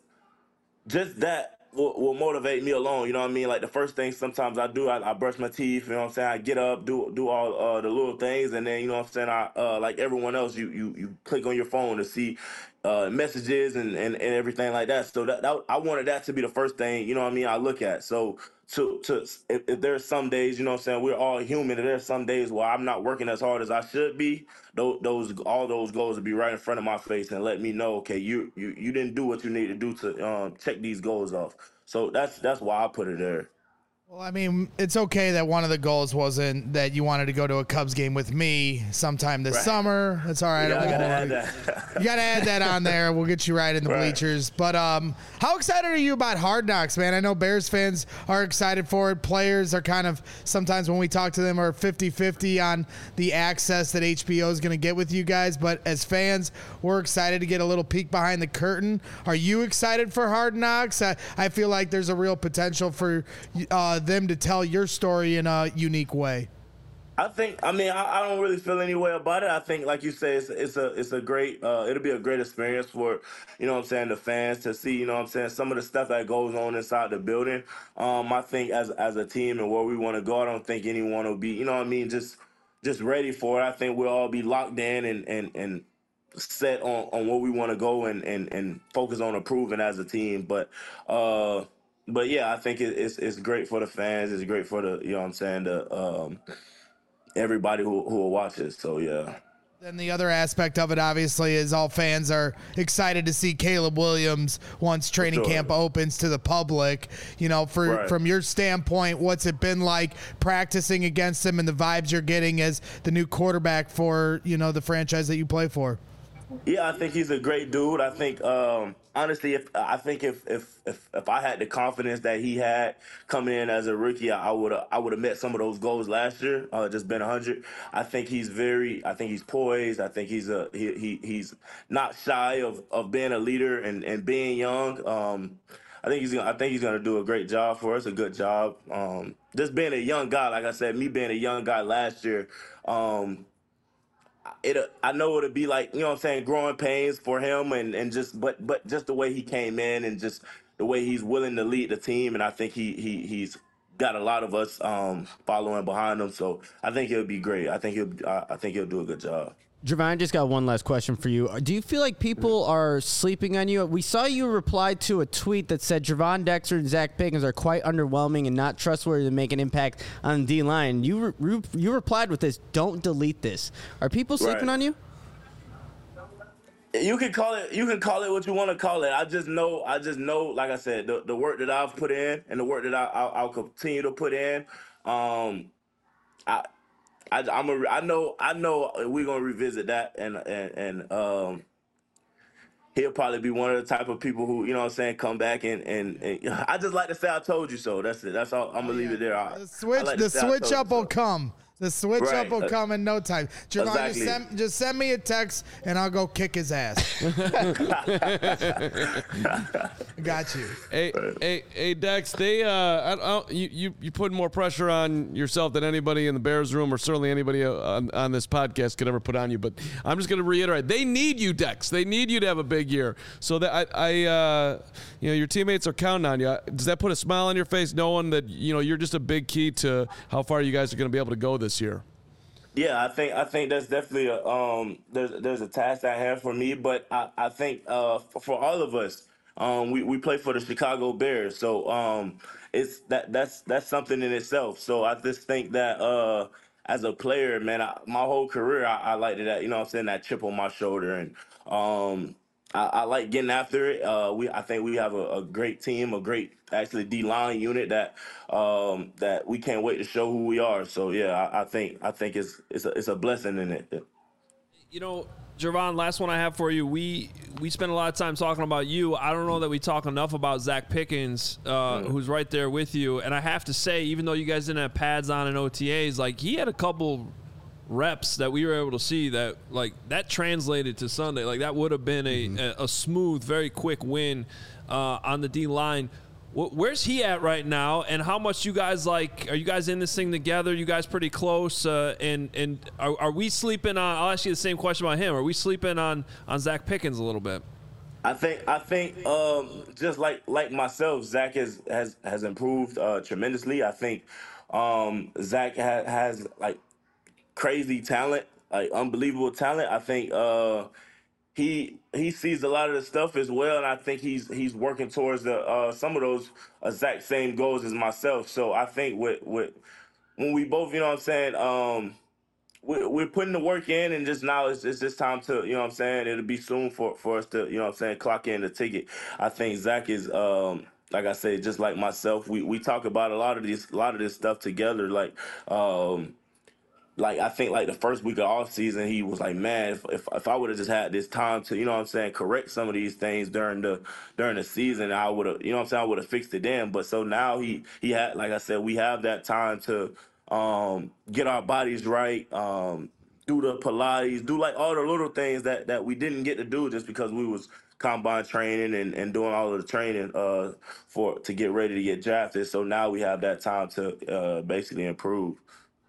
just that will, will motivate me alone. You know what I mean? Like the first thing sometimes I do, I, I brush my teeth. You know what I'm saying? I get up, do do all uh, the little things, and then you know what I'm saying. I uh, like everyone else, you you you click on your phone to see uh, messages and, and, and everything like that. So that, that I wanted that to be the first thing. You know what I mean? I look at so. To, to if, if there's some days, you know what I'm saying, we're all human, and there's some days where I'm not working as hard as I should be, those, those all those goals will be right in front of my face and let me know, okay, you you, you didn't do what you need to do to um, check these goals off. So that's that's why I put it there.
Well, I mean, it's okay that one of the goals wasn't that you wanted to go to a Cubs game with me sometime this right. summer. That's all right.
Yeah, I gotta add that.
You gotta add that on there. We'll get you right in the right. bleachers. But um, how excited are you about Hard Knocks, man? I know Bears fans are excited for it. Players are kind of, sometimes when we talk to them, are fifty-fifty on the access that H B O is going to get with you guys. But as fans, we're excited to get a little peek behind the curtain. Are you excited for Hard Knocks? I, I feel like there's a real potential for uh, them to tell your story in a unique way.
I think, I mean, I, I don't really feel any way about it. I think, like you say, it's, it's a it's a great, uh, it'll be a great experience for, you know what I'm saying, the fans to see, you know what I'm saying, some of the stuff that goes on inside the building. Um, I think as as a team and where we want to go, I don't think anyone will be, you know what I mean, just just ready for it. I think we'll all be locked in and and, and set on, on where we want to go and, and, and focus on improving as a team. But, uh, But yeah, I think it, it's it's great for the fans. It's great for the, you know what I'm saying, the um, everybody who who will watch it. So yeah.
Then the other aspect of it, obviously, is all fans are excited to see Caleb Williams once training
sure.
camp opens to the public. You know, for
Right.
from your standpoint, what's it been like practicing against him and the vibes you're getting as the new quarterback for, you know, the franchise that you play for?
Yeah, I think he's a great dude. I think, um, honestly, if I think if, if if if I had the confidence that he had coming in as a rookie, I would have I would have met some of those goals last year. Uh, just been a hundred. I think he's very. I think he's poised. I think he's a he, he he's not shy of, of being a leader and, and being young. Um, I think he's gonna, I think he's gonna do a great job for us. A good job. Um, just being a young guy, like I said, me being a young guy last year. Um, It, I know it'll be like, you know what I'm saying, growing pains for him and, and just, but, but just the way he came in and just the way he's willing to lead the team. And I think he, he, he's got a lot of us um, following behind him. So I think he'll be great. I think he'll, I, I think he'll do a good job.
Javon, I just got one last question for you. Do you feel like people are sleeping on you? We saw you reply to a tweet that said Javon Dexter and Zach Pickens are quite underwhelming and not trustworthy to make an impact on the D-line. You re- you replied with this, don't delete this. Are people sleeping
Right.
on you?
You can call it. You can call it what you want to call it. I just know. I just know. Like I said, the, the work that I've put in and the work that I, I'll, I'll continue to put in. Um, I, I, I'm a. I know. I know. We're gonna revisit that, and and and um, he'll probably be one of the type of people who, you know what I'm saying, come back and and, and I just like to say I told you so. That's it. That's all. I'm gonna leave it there. I,
The switch,
I like
the
to say I
switch
told
up
you
will
so.
come. The switch
Right.
up will come in no time. Javon,
Exactly.
just, send, just send me a text and I'll go kick his ass. Got you.
Hey, hey, hey, Dex. They, uh, I, I, you, you, you put more pressure on yourself than anybody in the Bears room, or certainly anybody on, on this podcast could ever put on you. But I'm just going to reiterate: they need you, Dex. They need you to have a big year. So that I, I, uh, you know, your teammates are counting on you. Does that put a smile on your face, knowing that you know you're just a big key to how far you guys are going to be able to go this year?
Yeah, I think I think that's definitely a um there's there's a task I have for me, but I, I think uh for, for all of us, um we, we play for the Chicago Bears, so um it's that that's that's something in itself. So I just think that uh as a player, man, I, my whole career I, I like that, you know what I'm saying, that chip on my shoulder, and um I, I like getting after it. Uh, we, I think we have a, a great team, a great actually D-line unit that um, that we can't wait to show who we are. So yeah, I, I think I think it's it's a, it's a blessing in it.
You know, Javon, last one I have for you. We we spend a lot of time talking about you. I don't know that we talk enough about Zach Pickens, uh, mm. who's right there with you. And I have to say, even though you guys didn't have pads on in O T As, like he had a couple reps that we were able to see that like that translated to Sunday. Like that would have been a, mm-hmm. a, a smooth, very quick win uh, on the D line. W- where's he at right now? And how much you guys like? Are you guys in this thing together? You guys pretty close? Uh, and and are, are we sleeping on? I'll ask you the same question about him. Are we sleeping on on Zach Pickens a little bit?
I think I think um, just like like myself, Zach has has has improved uh, tremendously. I think um, Zach ha- has like. crazy talent, like unbelievable talent. I think uh, he he sees a lot of the stuff as well, and I think he's he's working towards the uh, some of those exact same goals as myself. So I think with with when we both, you know what I'm saying, um, we're, we're putting the work in, and just now it's, it's just time to, you know what I'm saying, it'll be soon for, for us to, you know what I'm saying, clock in the ticket. I think Zach is, um, like I said, just like myself, we, we talk about a lot of this a lot of this stuff together, like um, Like, I think, like, the first week of off season, he was like, man, if if, if I would have just had this time to, you know what I'm saying, correct some of these things during the during the season, I would have, you know what I'm saying, I would have fixed it then. But so now he, he had, like I said, we have that time to um, get our bodies right, um, do the Pilates, do, like, all the little things that, that we didn't get to do just because we was combine training and, and doing all of the training uh, for to get ready to get drafted. So now we have that time to uh, basically improve.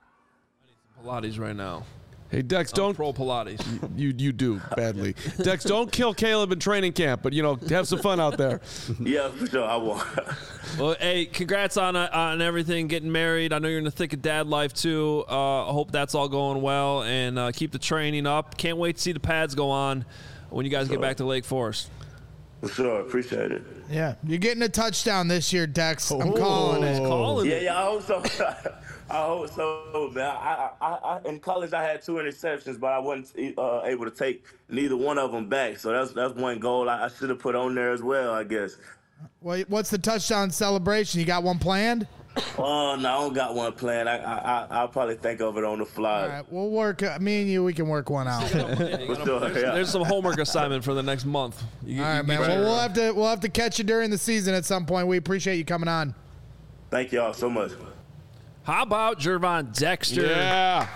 Pilates right now.
Hey, Dex, don't
pro Pilates.
You you do badly. Dex, don't kill Caleb in training camp, but you know, have some fun out there.
Yeah, for sure, I won't.
Well, hey, congrats on uh, on everything, getting married. I know you're in the thick of dad life too. Uh, I hope that's all going well, and uh, keep the training up. Can't wait to see the pads go on when you guys
sure.
get back to Lake Forest.
For sure, appreciate it.
Yeah, you're getting a touchdown this year, Dex. I'm
Oh,
calling it.
Calling
Yeah,
it.
yeah, I hope so. I hope so, man. I, I, I, in college, I had two interceptions, but I wasn't uh, able to take neither one of them back. So that's that's one goal I, I should have put on there as well, I guess.
Well, what's the touchdown celebration? You got one planned?
Oh, no, I don't got one planned. I, I, I'll probably think of it on the fly.
All right, we'll work. Uh, me and you, we can work one out.
For sure,
There's,
yeah.
there's some homework assignment for the next month. You,
All right,
you
man.
get
Well,
your-
we'll have to we'll have to catch you during the season at some point. We appreciate you coming on.
Thank y'all so much.
How about Gervon Dexter?
Yeah.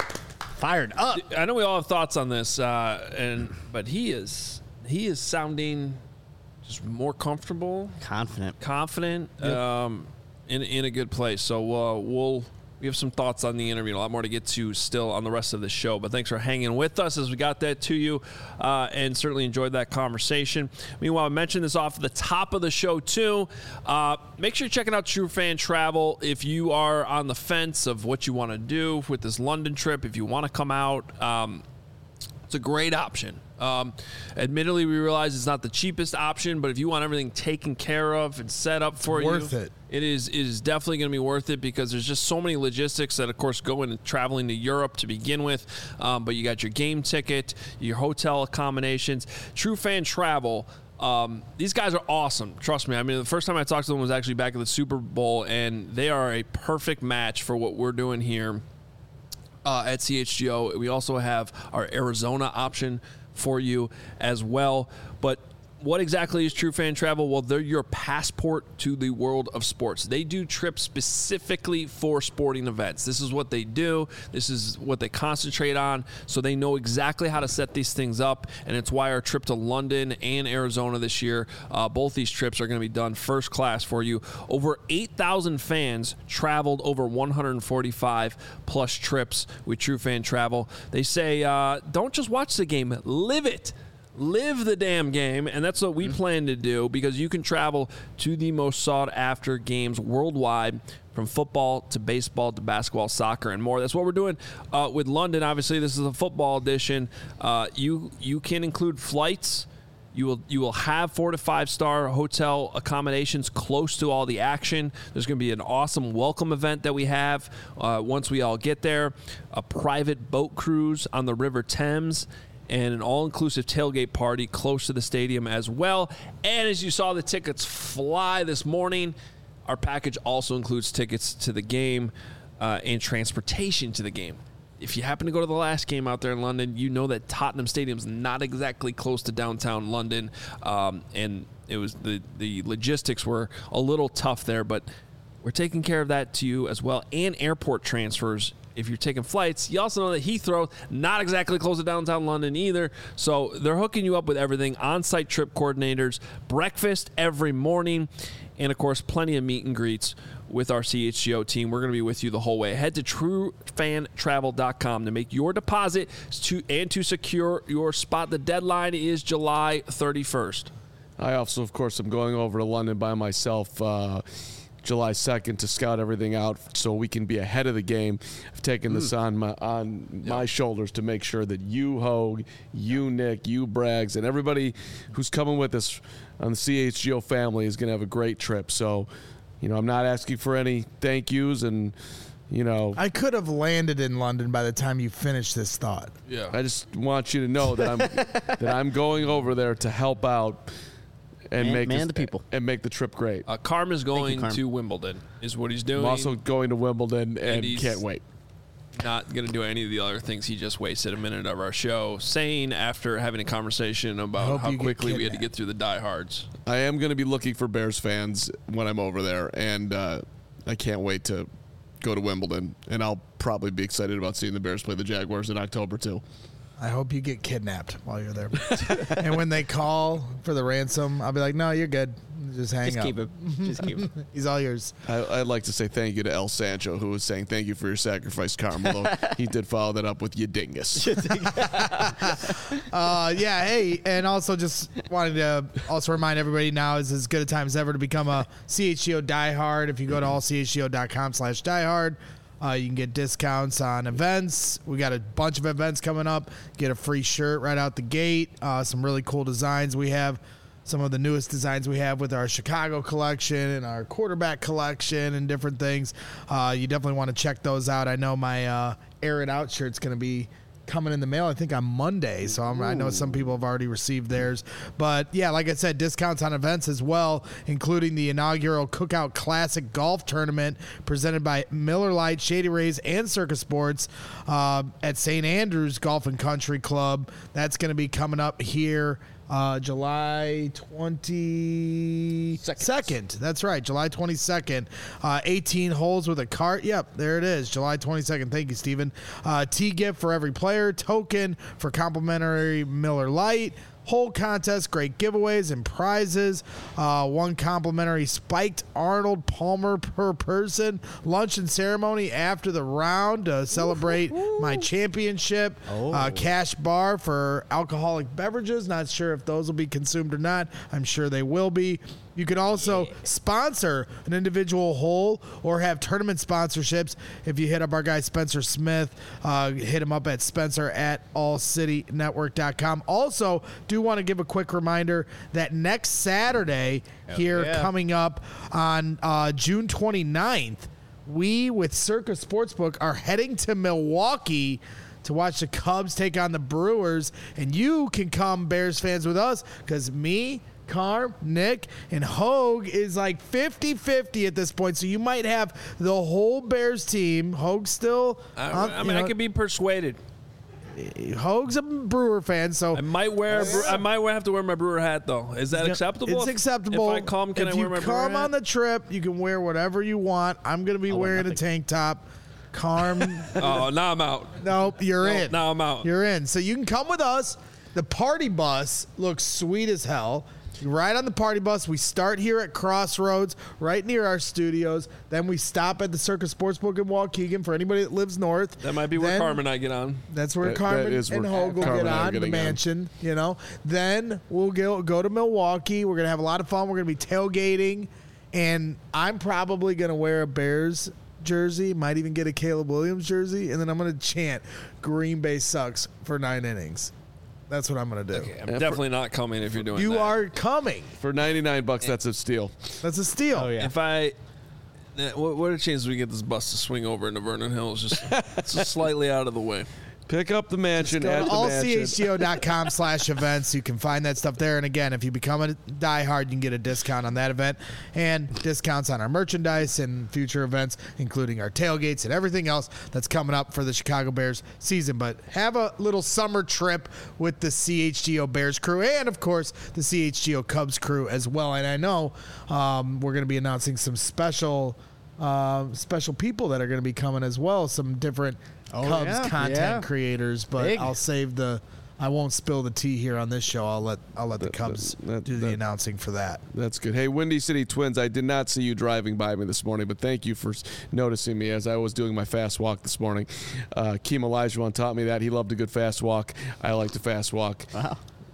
Fired up.
I know we all have thoughts on this, uh, and but he is he is sounding just more comfortable,
Confident.
confident, um, in in a good place. So uh, we'll we have some thoughts on the interview, a lot more to get to still on the rest of the show. But thanks for hanging with us as we got that to you, uh, and certainly enjoyed that conversation. Meanwhile, I mentioned this off the top of the show too. Uh, make sure you're checking out True Fan Travel if you are on the fence of what you want to do with this London trip. If you want to come out. Um, It's a great option. Um, admittedly, we realize it's not the cheapest option, but if you want everything taken care of and set up for you,
worth it.
It is, it is definitely going to be worth it because there's just so many logistics that, of course, go into traveling to Europe to begin with. Um, but you got your game ticket, your hotel accommodations, True Fan Travel. Um, these guys are awesome. Trust me. I mean, the first time I talked to them was actually back at the Super Bowl, and they are a perfect match for what we're doing here. Uh, at C H G O. We also have our Arizona option for you as well. But what exactly is True Fan Travel? Well, they're your passport to the world of sports. They do trips specifically for sporting events. This is what they do. This is what they concentrate on. So they know exactly how to set these things up. And it's why our trip to London and Arizona this year, uh, both these trips are going to be done first class for you. Over eight thousand fans traveled over one hundred forty-five plus trips with True Fan Travel. They say, uh, don't just watch the game, live it. Live the damn game, and that's what we plan to do because you can travel to the most sought-after games worldwide, from football to baseball to basketball, soccer, and more. That's what we're doing uh, with London. Obviously, this is a football edition. Uh, you you can include flights. You will you will have four to five star hotel accommodations close to all the action. There's going to be an awesome welcome event that we have uh, once we all get there. A private boat cruise on the River Thames. And an all-inclusive tailgate party close to the stadium as well. And as you saw the tickets fly this morning, our package also includes tickets to the game uh, and transportation to the game. If you happen to go to the last game out there in London, you know that Tottenham Stadium's not exactly close to downtown London, um, and it was the the logistics were a little tough there, but we're taking care of that to you as well, and airport transfers. If you're taking flights, you also know that Heathrow, not exactly close to downtown London either. So they're hooking you up with everything, on-site trip coordinators, breakfast every morning, and, of course, plenty of meet and greets with our C H G O team. We're going to be with you the whole way. Head to true fan travel dot com to make your deposit to and to secure your spot. The deadline is July thirty-first.
I also, of course, am going over to London by myself uh, July second to scout everything out so we can be ahead of the game. I've taken this on my on my shoulders to make sure that you, Hogue, you, Nick, you, Braggs, and everybody who's coming with us on the C H G O family is going to have a great trip. So, you know, I'm not asking for any thank yous, and, you know,
I could have landed in London by the time you finished this thought.
Yeah.
I just want you to know that I'm that I'm going over there to help out and
Man-
make
man
this-
the people.
and make the trip great.
Uh, Carm is going
Carm.
to Wimbledon, is what he's doing.
I'm also going to Wimbledon and
he's-
can't wait.
Not going to do any of the other things. He just wasted a minute of our show saying after having a conversation about
hope
how
you get
quickly we had to
kidnapped.
get through the diehards.
I am going to be looking for Bears fans when I'm over there, and uh, I can't wait to go to Wimbledon. And I'll probably be excited about seeing the Bears play the Jaguars in October too.
I hope you get kidnapped while you're there. And when they call for the ransom, I'll be like, no, you're good. Just hang
Just
up.
keep it. Just keep it.
He's all yours.
I, I'd like to say thank you to El Sancho, who was saying thank you for your sacrifice, Carm. Although he did follow that up with you dingus.
Uh, yeah, hey, and also just wanted to also remind everybody now is as good a time as ever to become a C H G O diehard. If you go to all C H G O dot com slash diehard, uh, you can get discounts on events. We got a bunch of events coming up. Get a free shirt right out the gate. Uh, some really cool designs we have. some of the newest designs we have with our Chicago collection and our quarterback collection and different things. Uh, you definitely want to check those out. I know my uh, Air It Out shirt's going to be coming in the mail, I think, on Monday. So I'm, I know some people have already received theirs. But, yeah, like I said, discounts on events as well, including the inaugural Cookout Classic Golf Tournament presented by Miller Lite, Shady Rays, and Circus Sports uh, at Saint Andrews Golf and Country Club. That's going to be coming up here Uh, July twenty-second. That's right, July twenty-second. Uh, eighteen holes with a cart. Yep, there it is, July twenty-second. Thank you, Steven. Uh, tee gift for every player, token for complimentary Miller Lite. Whole contest, great giveaways and prizes. Uh, one complimentary spiked Arnold Palmer per person. Lunch and ceremony after the round to celebrate my championship.
Oh.
Uh, cash bar for alcoholic beverages. Not sure if those will be consumed or not. I'm sure they will be. You can also yeah. sponsor an individual hole or have tournament sponsorships. If you hit up our guy Spencer Smith, uh, hit him up at Spencer at all city network dot com. Also, do want to give a quick reminder that next Saturday Hell here yeah. coming up on uh, June twenty-ninth, we with Circus Sportsbook are heading to Milwaukee to watch the Cubs take on the Brewers. And you can come, Bears fans, with us because me, Carm, Nick, and Hogue is like fifty-fifty at this point. So you might have the whole Bears team. Hogue still.
I,
uh,
I mean, know, I could be persuaded.
Hogue's a Brewer fan, so
I might wear. A, I might have to wear my Brewer hat, though. Is that acceptable?
It's acceptable.
If I come, can
if
I wear my
Brewer hat? If you come on the trip, you can wear whatever you want. I'm going to be
I'll
wearing a tank top. Carm.
Oh, now I'm out.
Nope, you're
no,
in.
Now I'm out.
You're in. So you can come with us. The party bus looks sweet as hell. You ride on the party bus. We start here at Crossroads, right near our studios. Then we stop at the Circus Sportsbook in Waukegan for anybody that lives north.
That might be where
then,
Carmen and I get on.
That's where
that,
Carmen
that
and
where
Hogue will
Carmen
get on, the mansion, on. you know. Then we'll go, go to Milwaukee. We're going to have a lot of fun. We're going to be tailgating. And I'm probably going to wear a Bears jersey, might even get a Caleb Williams jersey. And then I'm going to chant, Green Bay sucks for nine innings. That's what I'm going to do.
Okay, I'm yeah, definitely for, not coming if you're doing
you
that. You
are coming.
For ninety-nine bucks, that's a steal.
That's a steal.
Oh, yeah.
If I... What, what are the chances we get this bus to swing over into Vernon Hills just, just slightly out of the way?
Pick up the mansion
Go
at
to
the
all
mansion.
c h g o dot com slash events. You can find that stuff there. And again, if you become a diehard, you can get a discount on that event and discounts on our merchandise and future events, including our tailgates and everything else that's coming up for the Chicago Bears season. But have a little summer trip with the C H G O Bears crew and, of course, the C H G O Cubs crew as well. And I know um, we're going to be announcing some special uh, special people that are going to be coming as well, some different Oh, Cubs yeah, content yeah. creators, but Big. I'll save the. I won't spill the tea here on this show. I'll let I'll let the that, Cubs that, do the that, announcing for that.
That's good. Hey, Windy City Twins, I did not see you driving by me this morning, but thank you for noticing me as I was doing my fast walk this morning. Uh, Keem Olajuwon taught me that. He loved a good fast walk. I like to fast walk.
Wow.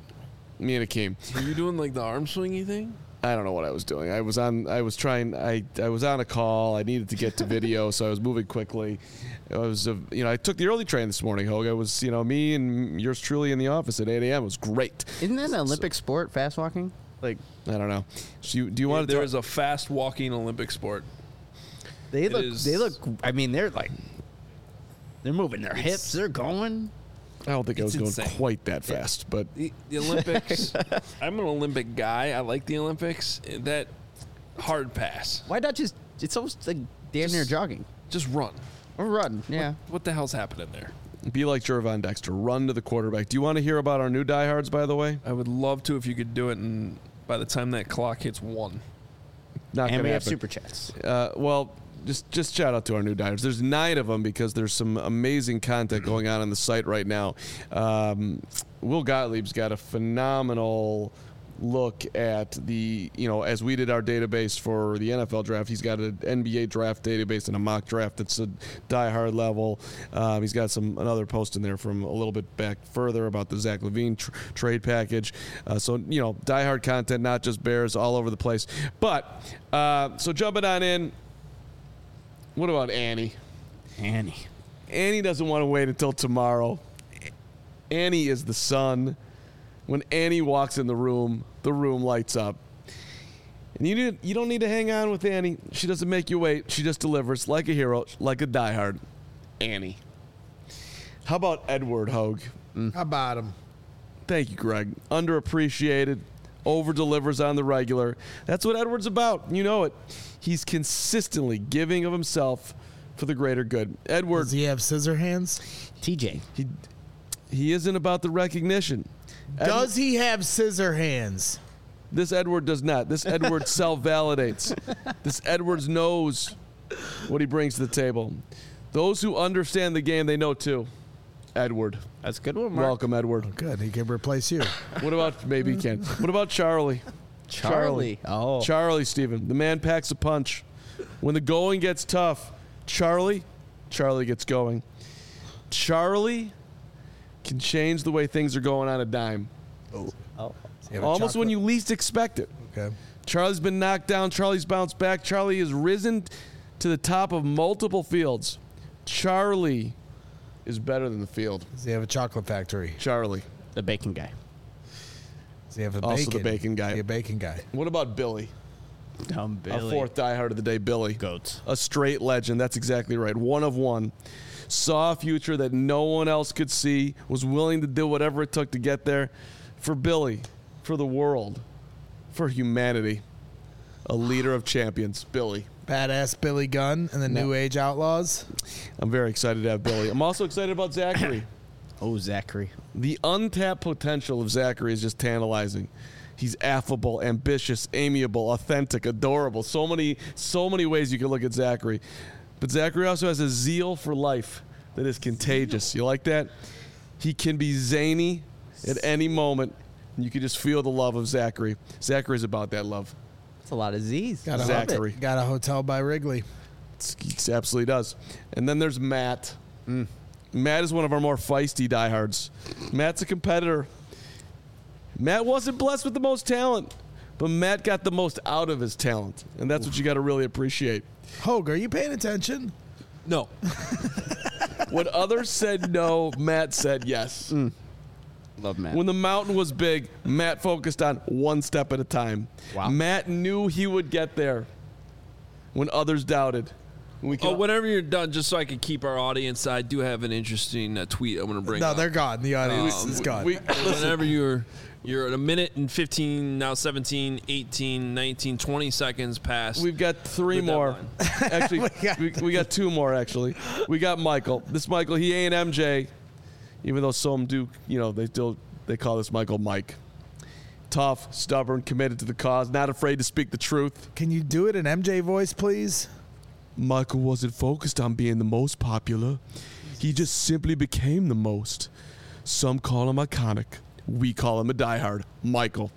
Me and Akeem.
Were you doing like the arm swingy thing?
I don't know what I was doing. I was on. I was trying. I I was on a call. I needed to get to video, so I was moving quickly. I was, uh, you know, I took the early train this morning, Hogue. I was, you know, me and yours truly in the office at eight a.m. It was great.
Isn't that an Olympic so, sport, fast walking?
Like, I don't know. So you, do you yeah, want to?
There is a fast walking Olympic sport.
They
it
look.
Is,
they look. I mean, they're like, they're moving their hips. They're going.
I don't think I was
insane.
going quite that fast, but
the, the Olympics. I'm an Olympic guy. I like the Olympics. That hard pass.
Why not just? It's almost like damn near jogging.
Just run.
Or run. Yeah.
What, what the hell's happening there?
Be like Jervon Dexter. Run to the quarterback. Do you want to hear about our new diehards, by the way?
I would love to if you could do it, and by the time that clock hits one.
Not
and
gonna
we
happen.
have super chats.
Uh, well. Just just shout out to our new diehards. There's nine of them because there's some amazing content going on on the site right now. Um, Will Gottlieb's got a phenomenal look at the, you know, as we did our database for the N F L draft, he's got an N B A draft database and a mock draft that's a diehard level. Um, he's got some another post in there from a little bit back further about the Zach LaVine tr- trade package. Uh, so, you know, diehard content, not just Bears, all over the place. But, uh, so jumping on in, what about Annie?
Annie.
Annie doesn't want to wait until tomorrow. Annie is the son When Annie walks in the room, the room lights up. And you need, you don't need to hang on with Annie. She doesn't make you wait. She just delivers like a hero, like a diehard. Annie. How about Edward Hogue?
How about him?
Thank you, Greg. Underappreciated, over-delivers on the regular. That's what Edward's about. You know it. He's consistently giving of himself for the greater good. Edward,
Does he have scissor hands?
T J.
he, he isn't about the recognition. Ed-
Does he have scissor hands?
This Edward does not. This Edward self-validates. This Edwards knows what he brings to the table. Those who understand the game, they know too. Edward.
That's a good one, Mark.
Welcome, Edward.
Good. He can replace you.
What about, maybe he can. What about Charlie?
Charlie. Oh.
Charlie, Steven. The man packs a punch. When the going gets tough, Charlie, Charlie gets going. Charlie can change the way things are going on a dime.
oh.
Does he have a
Almost when
chocolate-
you least expect it.
Okay.
Charlie's been knocked down. Charlie's bounced back. Charlie has risen to the top of multiple fields. Charlie is better than the field.
Does he have a chocolate factory?
Charlie.
The bacon guy.
Does he have a
Also
bacon?
the bacon guy.
Is he a bacon guy?
What about Billy?
Dumb
Our fourth diehard of the day, Billy.
Goats.
A straight legend. That's exactly right. One of one. Saw a future that no one else could see. Was willing to do whatever it took to get there. For Billy. For the world. For humanity. A leader of champions. Billy.
Badass Billy Gunn and the New Age Outlaws.
I'm very excited to have Billy. I'm also excited about Zachary.
Oh, Zachary.
The untapped potential of Zachary is just tantalizing. He's affable, ambitious, amiable, authentic, adorable. So many, so many ways you can look at Zachary. But Zachary also has a zeal for life that is contagious. You like that? He can be zany at any moment. And you can just feel the love of Zachary. Zachary's about that love.
That's a lot of Z's.
Got a,
Zachary.
got a hotel by Wrigley.
He absolutely does. And then there's Matt. Matt is one of our more feisty diehards. Matt's a competitor. Matt wasn't blessed with the most talent, but Matt got the most out of his talent. And that's what you got to really appreciate.
Hogue, are you paying attention?
No.
When others said no, Matt said yes.
Love Matt.
When the mountain was big, Matt focused on one step at a time.
Wow.
Matt knew he would get there when others doubted. We can,
Oh, whenever you're done, just so I can keep our audience, I do have an interesting uh, tweet I'm going to bring
No,
up.
they're gone. The audience
Um,
is gone.
we,
Whenever you're you're at a minute and fifteen, now seventeen, eighteen, nineteen, twenty seconds past.
We've got three
The
more.
deadline.
Actually,
We got-
we, we got two more, actually. We got Michael. This Michael, he ain't M J, even though some do, you know, they still, they call this Michael Mike. Tough, stubborn, committed to the cause, not afraid to speak the truth.
Can you do it in M J voice, please?
Michael wasn't focused on being the most popular. He just simply became the most. Some call him iconic. We call him a diehard. Michael.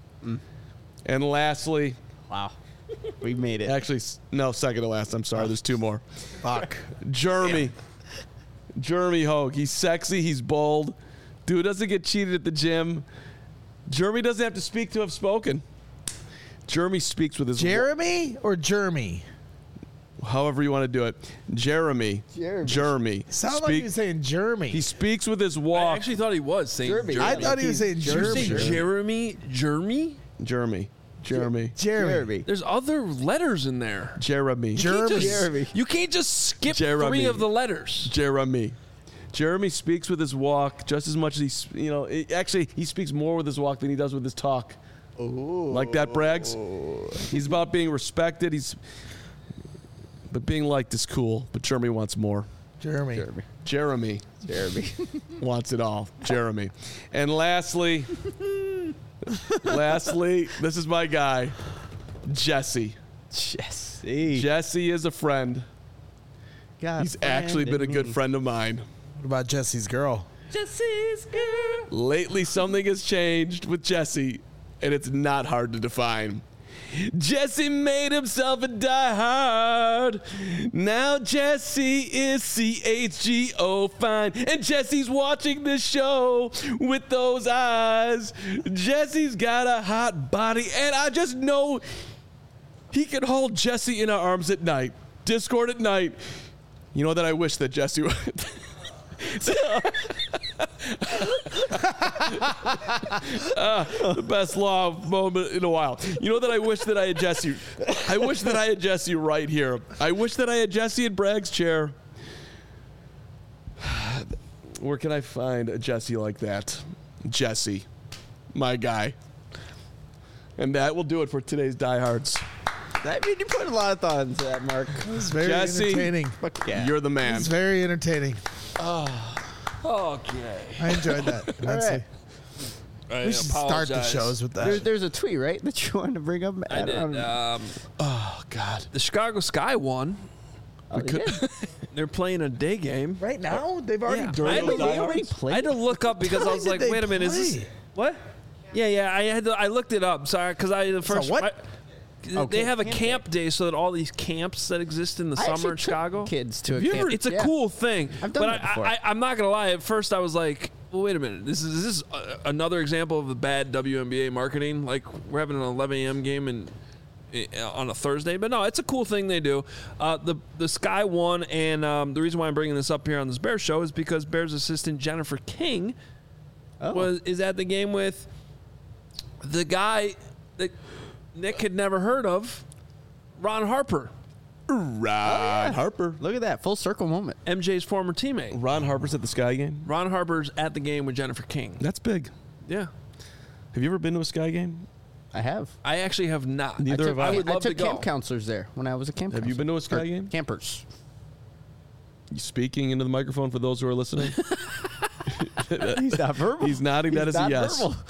And lastly,
Wow. We made it.
actually, s- no, second to last. I'm sorry. There's two more.
Fuck.
Jeremy. Jeremy Hogue. He's sexy. He's bold. Dude doesn't get cheated at the gym. Jeremy doesn't have to speak to have spoken. Jeremy speaks with his
Jeremy or Jeremy?
however you want to do it. Jeremy.
Jeremy.
Jeremy.
Sound like
Speak-
he was saying Jeremy.
He speaks with his
I
walk.
actually thought he was saying
Jeremy.
Jeremy.
I thought he was saying
Did
Did you
Jeremy.
say Jeremy? Jeremy?
Jeremy. Jeremy.
Jeremy.
There's other letters in there.
Jeremy.
You can't just-
Jeremy.
You can't just skip
Jeremy.
three of the letters.
Jeremy. Jeremy speaks with his walk just as much as he, s- you know, it- actually, he speaks more with his walk than he does with his talk.
Ooh.
Like that, Braggs? He's about being respected. He's, but being liked is cool. But Jeremy wants more.
Jeremy.
Jeremy.
Jeremy
Jeremy.
wants it all. Jeremy. And lastly, lastly, this is my guy, Jesse.
Jesse.
Jesse is a friend.
God,
He's actually been a good
me.
friend of mine.
What about Jesse's girl?
Jesse's girl.
Lately, something has changed with Jesse, and it's not hard to define. Jesse made himself a diehard. Now Jesse is C H G O fine. And Jesse's watching this show with those eyes. Jesse's got a hot body, and I just know he can hold Jesse in our arms at night. Discord at night. You know that I wish that Jesse would. uh, the best law moment in a while. You know that I wish that I had Jesse. I wish that I had Jesse right here. I wish that I had Jesse in Bragg's chair. Where can I find a Jesse like that? Jesse, my guy. And that will do it for today's Diehards.
I mean, you put a lot of thought into that, Mark.
It was very
Jesse,
entertaining.
Fuck yeah.
You're the man.
It's very entertaining.
Okay.
I enjoyed that. immensely.
I
We should start the
apologize.
shows with that.
There, there's a tweet, right, that you wanted to bring up?
I did.
don't know.
Um,
Oh, God.
the Chicago Sky won.
Oh, they did?
They're playing a day game.
right now, they've already
Yeah.
done
I
it.
had to
They
look-
already played?
I had to look up because I was
When
like,
did they
wait a minute, is this
play?
what? Yeah, yeah. I had to. I looked it up. Sorry, because I the first.
what?
I-
Okay,
they have a
camp
camp day, so that all these camps that exist in the
I
summer
actually
in
took
Chicago.
kids to a
You
camp.
ever- it's a
Yeah.
cool thing.
I've done
but
that
I,
before.
I, I'm not gonna lie. At first, I was like, well, wait a minute. This is, is this uh, another example of the bad W N B A marketing? Like we're having an eleven a.m. game and. On a Thursday, but no, it's a cool thing they do. Uh, the the Sky won, and um, the reason why I'm bringing this up here on this Bears show is because Bears assistant Jennifer King
Oh.
was is at the game with the guy that Nick had never heard of, Ron Harper,
Ron Harper.
Look at that. Full circle moment.
M J's former teammate.
Ron Harper's at the Sky game.
Ron Harper's at the game with Jennifer King.
That's big.
Yeah,
Have you ever been to a Sky game?
I have.
I actually have not.
Neither
I took,
have I.
I would
I
love
took
to go.
camp counselors there when I was a camp
Have you
counselor.
been to a Sky
Or
game?
Campers.
You speaking into the microphone for those who are listening?
He's not verbal.
He's nodding. That
He's
is a
not
yes.
verbal.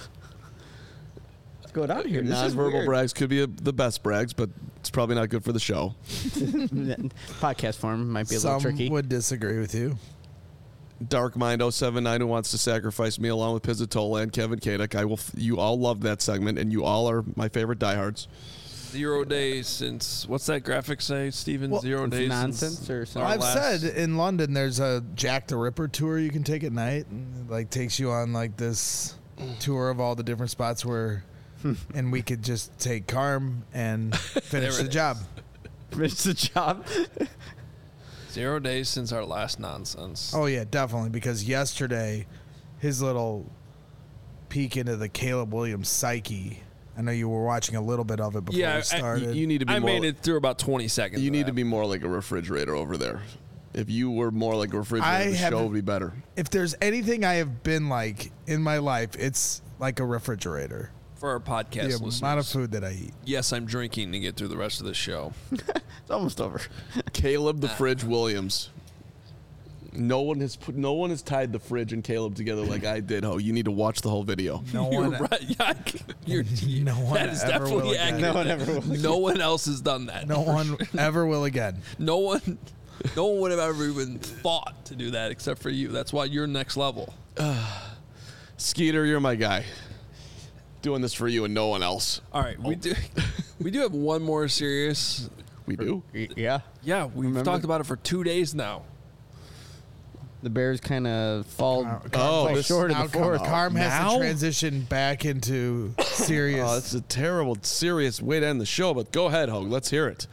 What's going on here? This is
Non-verbal
weird.
brags could be a, the best brags, but it's probably not good for the show.
Podcast form might be a
Some
little tricky.
would disagree with you.
Dark Mind oh seven nine who wants to sacrifice me along with Pizzatola and Kevin Kadek. I will. F- you all love that segment, and you all are my favorite diehards.
Zero days since what's that graphic say, Steven?
Well,
Zero
It's
days
nonsense
since
or
our
something.
I've
last-
said in London there's a Jack the Ripper tour you can take at night, and it, like takes you on like this tour of all the different spots where, and we could just take Carm and finish
There
the
it
job.
It's a job.
Zero days since our last nonsense.
Oh yeah, definitely. Because yesterday, his little peek into the Caleb Williams psyche. I know you were watching a little bit of it before
Yeah, I-
we
you-
started.
You need to be
I
more.
made it through about twenty seconds.
you
of
need
that.
to be more like a refrigerator over there. If you were more like a refrigerator,
I
the show
haven't-
would be better.
if there's anything I have been like in my life, it's like a refrigerator.
for our podcast
The
listeners.
amount of food that I eat.
Yes, I'm drinking to get through the rest of the show.
It's almost over.
Caleb the Fridge Williams. No one has put. No one has tied the fridge and Caleb together like I did. Oh, you need to watch the whole video.
No
You're
one,
right. Yeah, you're,
No one
that is
ever will
definitely
again.
accurate.
No one ever will
No one else has done that.
no one ever will again.
No one. No one would have ever even thought to do that except for you. That's why you're next level.
Skeeter, you're my guy. Doing this for you and no one else.
All right, we do. We do have one more serious.
We do.
Yeah.
Yeah, we've
Remember-
talked about it for two days now.
The Bears kind of fall,
Carm
Oh,
fall
this-
short in
Now
the fourth.
Carm has
Now?
to transition back into serious.
Oh, that's a terrible, serious way to end the show. But go ahead, Hogue. Let's hear it.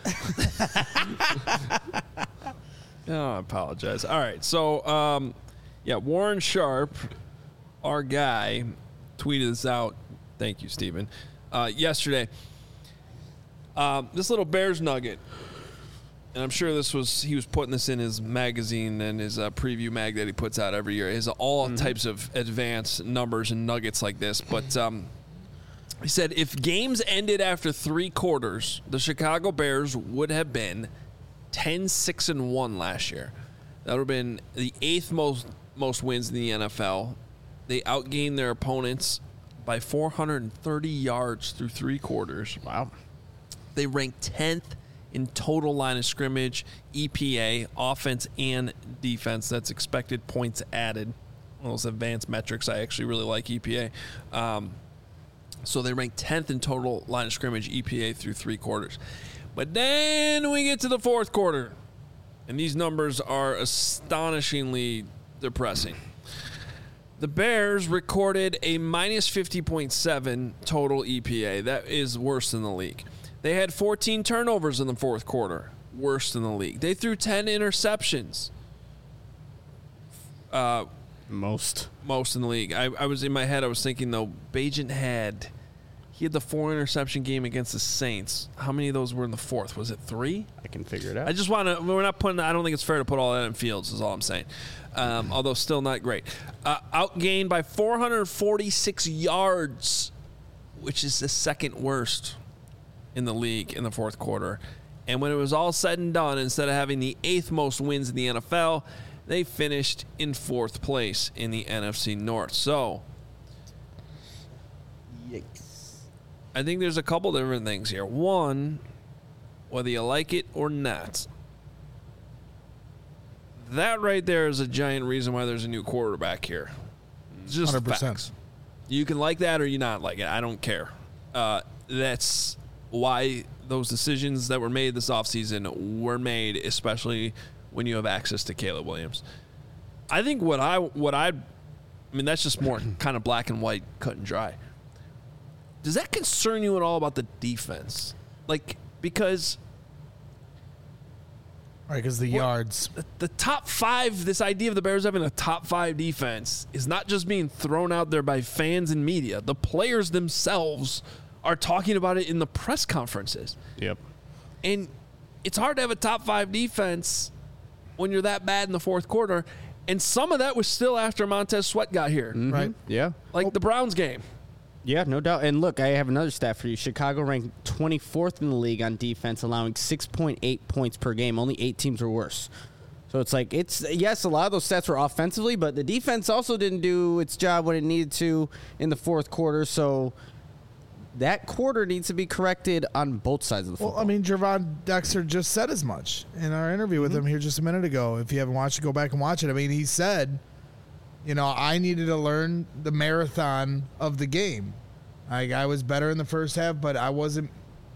Oh, I apologize. All right, so um, yeah, Warren Sharp, our guy, tweeted this out. Thank you, Stephen. Uh, yesterday, um, this little Bears nugget, and I'm sure this was he was putting this in his magazine and his uh, preview mag that he puts out every year. He has all types of advanced numbers and nuggets like this, but. Um, He said, if games ended after three quarters, the Chicago Bears would have been ten six and one last year. That would have been the eighth most most wins in the N F L. They outgained their opponents by four hundred thirty yards through three quarters.
Wow.
They ranked tenth in total line of scrimmage, E P A, offense and defense. That's expected points added. One of those advanced metrics. I actually really like E P A. Um, So they ranked tenth in total line of scrimmage, E P A through three quarters. But then we get to the fourth quarter, and these numbers are astonishingly depressing. The Bears recorded a minus fifty point seven total E P A. That is worse than the league. They had fourteen turnovers in the fourth quarter, worse than the league. They threw ten interceptions. Uh,
Most.
Most in the league. I, I was in my head, I was thinking, though, Bagent had, he had the four interception game against the Saints. How many of those were in the fourth? Was it three?
I can figure it out.
I just want to, we're not putting, I don't think it's fair to put all that in Fields, is all I'm saying. Um, although still not great. Uh, outgained by four hundred forty-six yards, which is the second worst in the league in the fourth quarter. And when it was all said and done, instead of having the eighth most wins in the N F L, they finished in fourth place in the N F C North. So,
Yikes.
I think there's a couple different things here. One, whether you like it or not, that right there is a giant reason why there's a new quarterback here. It's just
one hundred percent.
facts. You can like that or you not like it. I don't care. Uh, that's why those decisions that were made this offseason were made, especially when you have access to Caleb Williams. I think what I what I, I mean, that's just more kind of black and white, cut and dry. Does that concern you at all about the defense? Like, because
Right, because the
What-
yards.
the, the top five, this idea of the Bears having a top five defense is not just being thrown out there by fans and media. The players themselves are talking about it in the press conferences.
Yep.
And it's hard to have a top five defense when you're that bad in the fourth quarter. And some of that was still after Montez Sweat got here,
Right.
Yeah.
like the Browns game.
Yeah, no doubt. And look, I have another stat for you. Chicago ranked twenty-fourth in the league on defense, allowing six point eight points per game. Only eight teams were worse. So it's like, it's, yes, a lot of those stats were offensively, but the defense also didn't do its job when it needed to in the fourth quarter. So that quarter needs to be corrected on both sides of the football.
Well, I mean, Gervon Dexter just said as much in our interview with him here just a minute ago. If you haven't watched it, go back and watch it. I mean, he said, you know, I needed to learn the marathon of the game. Like, I was better in the first half, but I wasn't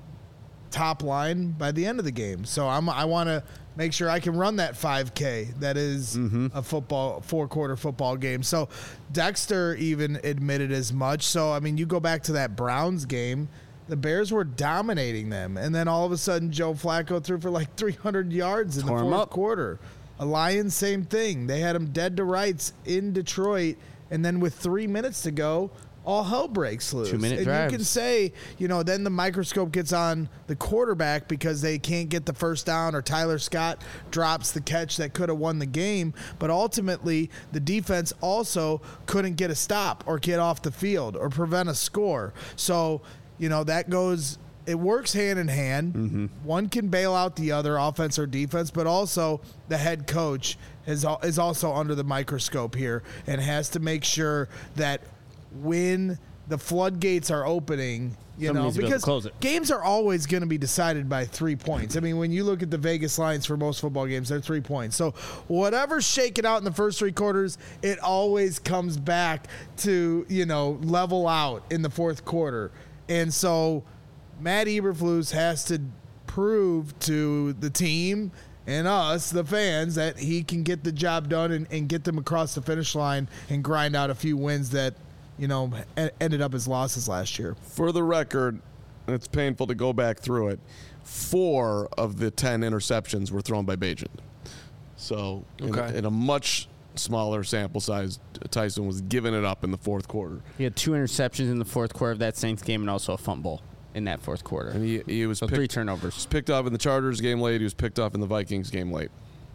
top line by the end of the game. So I'm, I want to make sure I can run that five K that is a football, four-quarter football game. So Dexter even admitted as much. So, I mean, you go back to that Browns game, the Bears were dominating them. And then all of a sudden, Joe Flacco threw for like three hundred yards in
Tore
the
'em
fourth
up.
quarter. A Lions, same thing. They had him dead to rights in Detroit. And then with three minutes to go, all hell breaks loose.
Two-minute
and
drives.
you can say, you know, then the microscope gets on the quarterback because they can't get the first down, or Tyler Scott drops the catch that could have won the game. But ultimately, the defense also couldn't get a stop or get off the field or prevent a score. So, you know, that goes, it works hand in hand.
Mm-hmm.
One can bail out the other, offense or defense, but also the head coach is, al- is also under the microscope here and has to make sure that when the floodgates are opening, you
Somebody
know,
needs to be able to
because
close it.
games are always going to be decided by three points. I mean, when you look at the Vegas lines for most football games, they're three points. So whatever's shaking out in the first three quarters, it always comes back to, you know, level out in the fourth quarter. And so Matt Eberflus has to prove to the team and us, the fans, that he can get the job done and, and get them across the finish line and grind out a few wins that, you know, e- ended up as losses last year.
For the record, and it's painful to go back through it, four of the ten interceptions were thrown by Bagent. So in,
Okay.
in a much smaller sample size, Tyson was giving it up in the fourth quarter.
He had two interceptions in the fourth quarter of that Saints game and also a fumble in that fourth quarter.
And he, he was
So
picked,
three turnovers.
was picked up in the Chargers game late. He was picked up in the Vikings game late.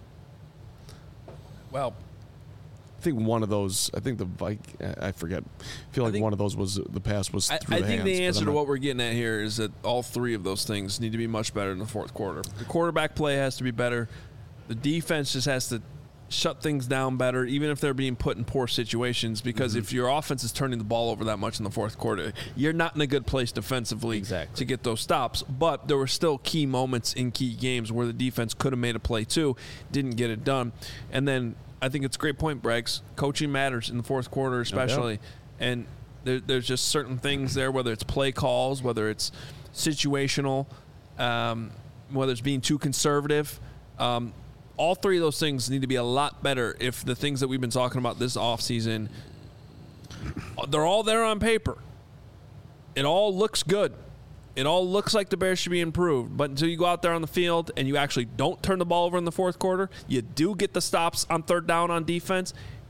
Well,
I think one of those, I think the Vik, I forget. I feel
I
like
think-
one of those was, the pass was
I,
through
I
the
think
hands,
the
but
answer
I'm
to
not-
what we're getting at here is that all three of those things need to be much better in the fourth quarter. The quarterback play has to be better. The defense just has to shut things down better, even if they're being put in poor situations, because
Mm-hmm.
if your offense is turning the ball over that much in the fourth quarter, you're not in a good place defensively
Exactly.
to get those stops. But there were still key moments in key games where the defense could have made a play too, didn't get it done. And then I think it's a great point, Braggs. Coaching matters in the fourth quarter especially. And there, there's just certain things there, whether it's play calls, whether it's situational, um, whether it's being too conservative. Um, all three of those things need to be a lot better if the things that we've been talking about this offseason, they're all there on paper. It all looks good. It all looks like the Bears should be improved. But until you go out there on the field and you actually don't turn the ball over in the fourth quarter, you do get the stops on third down on defense,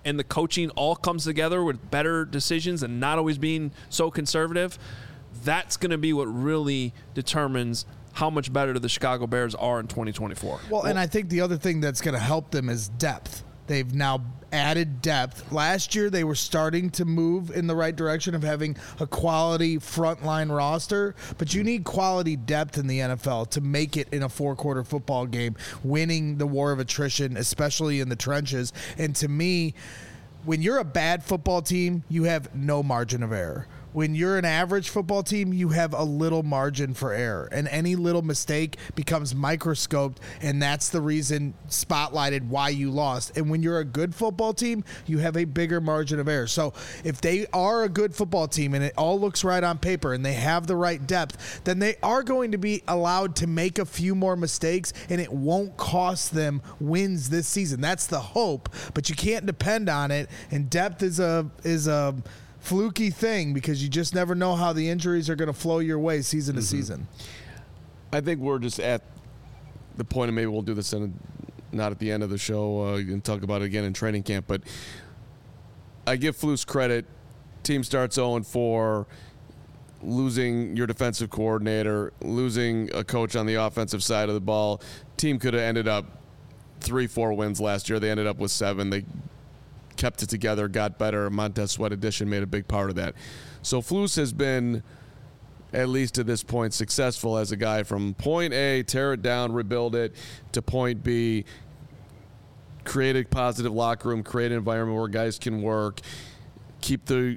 and the coaching all comes together with better decisions and not always being so conservative, that's going to be what really determines how much better the Chicago Bears are in twenty twenty-four.
Well, well and I think the other thing that's going to help them is depth. They've now added depth. Last year, they were starting to move in the right direction of having a quality frontline roster, but you need quality depth in the N F L to make it in a four-quarter football game, winning the war of attrition, especially in the trenches. And to me, when you're a bad football team, you have no margin of error. When you're an average football team, you have a little margin for error, and any little mistake becomes microscoped, and that's the reason spotlighted why you lost. And when you're a good football team, you have a bigger margin of error. So if they are a good football team and it all looks right on paper and they have the right depth, then they are going to be allowed to make a few more mistakes, and it won't cost them wins this season. That's the hope, but you can't depend on it, and depth is a is a fluky thing because you just never know how the injuries are going to flow your way season to mm-hmm. season.
I think we're just at the point, and maybe we'll do this in a, not at the end of the show uh, and talk about it again in training camp, but I give Flus credit. Team starts oh and four, losing your defensive coordinator, losing a coach on the offensive side of the ball. Team could have ended up three, four wins last year. They ended up with seven. They kept it together, got better. Montez Sweat addition made a big part of that. So Flus has been, at least to this point, successful as a guy from point A, tear it down, rebuild it, to point B, create a positive locker room, create an environment where guys can work, keep the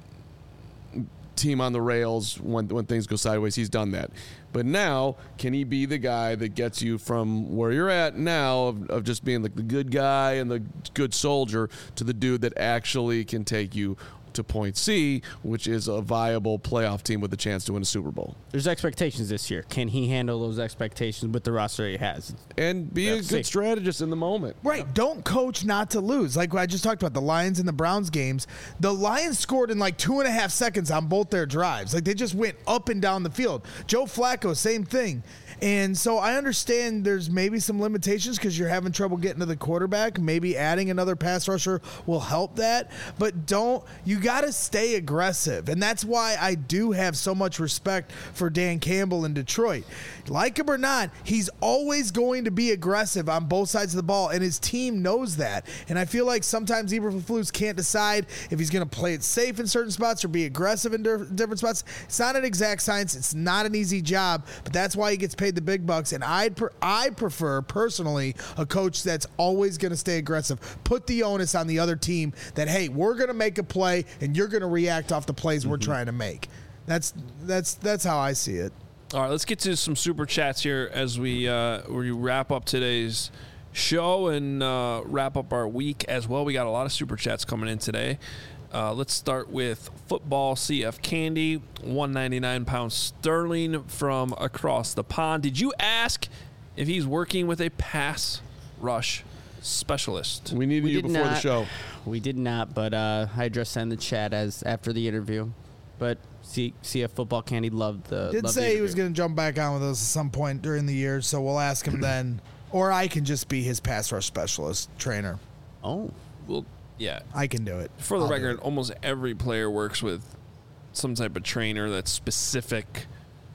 team on the rails when when things go sideways. He's done that. But now, can he be the guy that gets you from where you're at now of, of just being like the good guy and the good soldier to the dude that actually can take you to point C, which is a viable playoff team with a chance to win a Super Bowl?
There's expectations this year. Can he handle those expectations with the roster he has?
And be a good strategist in the moment.
Right. Don't coach not to lose. Like I just talked about the Lions and the Browns games. The Lions scored in like two and a half seconds on both their drives. Like they just went up and down the field. Joe Flacco, same thing. And so I understand there's maybe some limitations because you're having trouble getting to the quarterback. Maybe adding another pass rusher will help that. But don't you got to stay aggressive. And that's why I do have so much respect for Dan Campbell in Detroit. Like him or not, he's always going to be aggressive on both sides of the ball, and his team knows that. And I feel like sometimes Eberflus can't decide if he's going to play it safe in certain spots or be aggressive in different spots. It's not an exact science. It's not an easy job, but that's why he gets paid the big bucks. And I'd pre- I prefer personally a coach that's always going to stay aggressive. Put the onus on the other team that, hey, we're going to make a play and you're going to react off the plays mm-hmm. we're trying to make. That's that's that's how I see it.
All right, let's get to some super chats here as we uh, we wrap up today's show and uh, wrap up our week as well. We got a lot of super chats coming in today. Uh, let's start with Football C F Candy, one ninety-nine pounds sterling from across the pond. Did you ask if he's working with a pass rush specialist?
We needed
we
you before
not,
the show.
We did not, but uh, I addressed that in the chat as after the interview. But C- CF Football Candy loved the.
Did
loved
say
the
he was going to jump back on with us at some point during the year, so we'll ask him then, or I can just be his pass rush specialist trainer.
Oh,
well, yeah,
I can do it.
For the
I'll
record, almost every player works with some type of trainer that's specific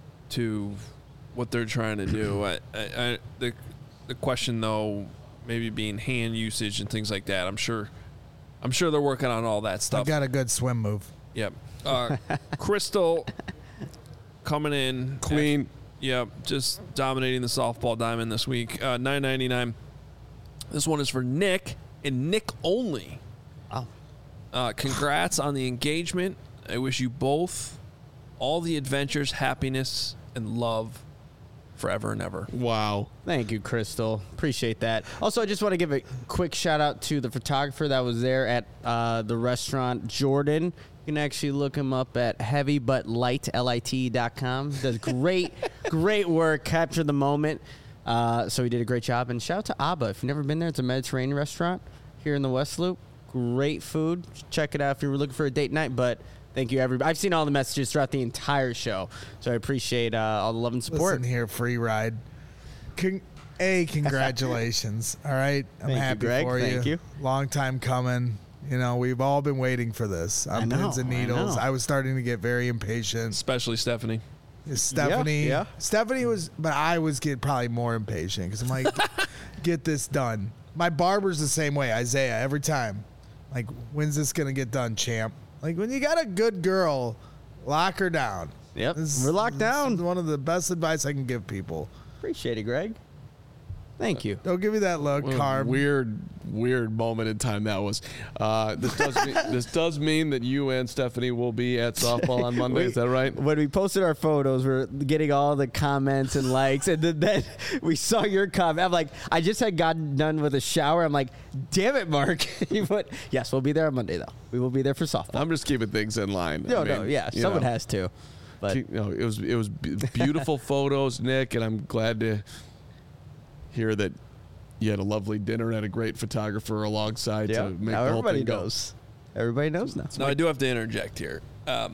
to what they're trying to do. I, I, I, the the question though, maybe being hand usage and things like that. I'm sure, I'm sure they're working on all that stuff.
I got a good swim move.
Yep. Uh, Crystal coming in
clean.
At, yep, just dominating the softball diamond this week. Uh, nine ninety-nine. This one is for Nick and Nick only.
Oh.
Uh, congrats on the engagement. I wish you both all the adventures, happiness, and love forever and ever.
Wow.
Thank you, Crystal. Appreciate that. Also, I just want to give a quick shout out to the photographer that was there at uh, the restaurant, Jordan. You can actually look him up at heavy but light L I T dot com. Does great, great work. Capture the moment. Uh, so he did a great job. And shout out to Abba. If you've never been there, it's a Mediterranean restaurant here in the West Loop. Great food. Check it out if you were looking for a date night. But thank you, everybody. I've seen all the messages throughout the entire show, so I appreciate uh, all the love and support.
Listen here, free ride. Con- a, congratulations. All right, I'm
Thank
happy
you, Greg.
for you.
Thank you.
Long time coming. You know, we've all been waiting for this on
I know,
pins and
I
needles.
know.
I, was starting to get very impatient.
Especially Stephanie.
Stephanie,
yeah.
Stephanie was, but I was getting probably more impatient because I'm like, get this done. My barber's the same way, Isaiah. Every time, like, when's this gonna get done, champ? Like, when you got a good girl, lock her down.
Yep,
This-
we're locked
this
down.
is one of the best advice I can give people.
Appreciate it, Greg. Thank you.
Don't give me that look,
What a
Carb.
weird, weird moment in time that was. Uh, this does mean, this does mean that you and Stephanie will be at softball on Monday. Is that right?
When we posted our photos, we're getting all the comments and likes, and then, then we saw your comment. I'm like, I just had gotten done with a shower. I'm like, damn it, Mark. You put, yes, we'll be there on Monday, though. We will be there for softball.
I'm just keeping things in line.
no,
I
no,
mean,
yeah,
you
someone
know,
has to. But
you know, it was it was b- beautiful photos, Nick, and I'm glad to hear that you had a lovely dinner and a great photographer alongside
yeah,
to make
now
the whole
everybody
thing go.
knows. Everybody knows now.
Now, I do have to interject here. Um,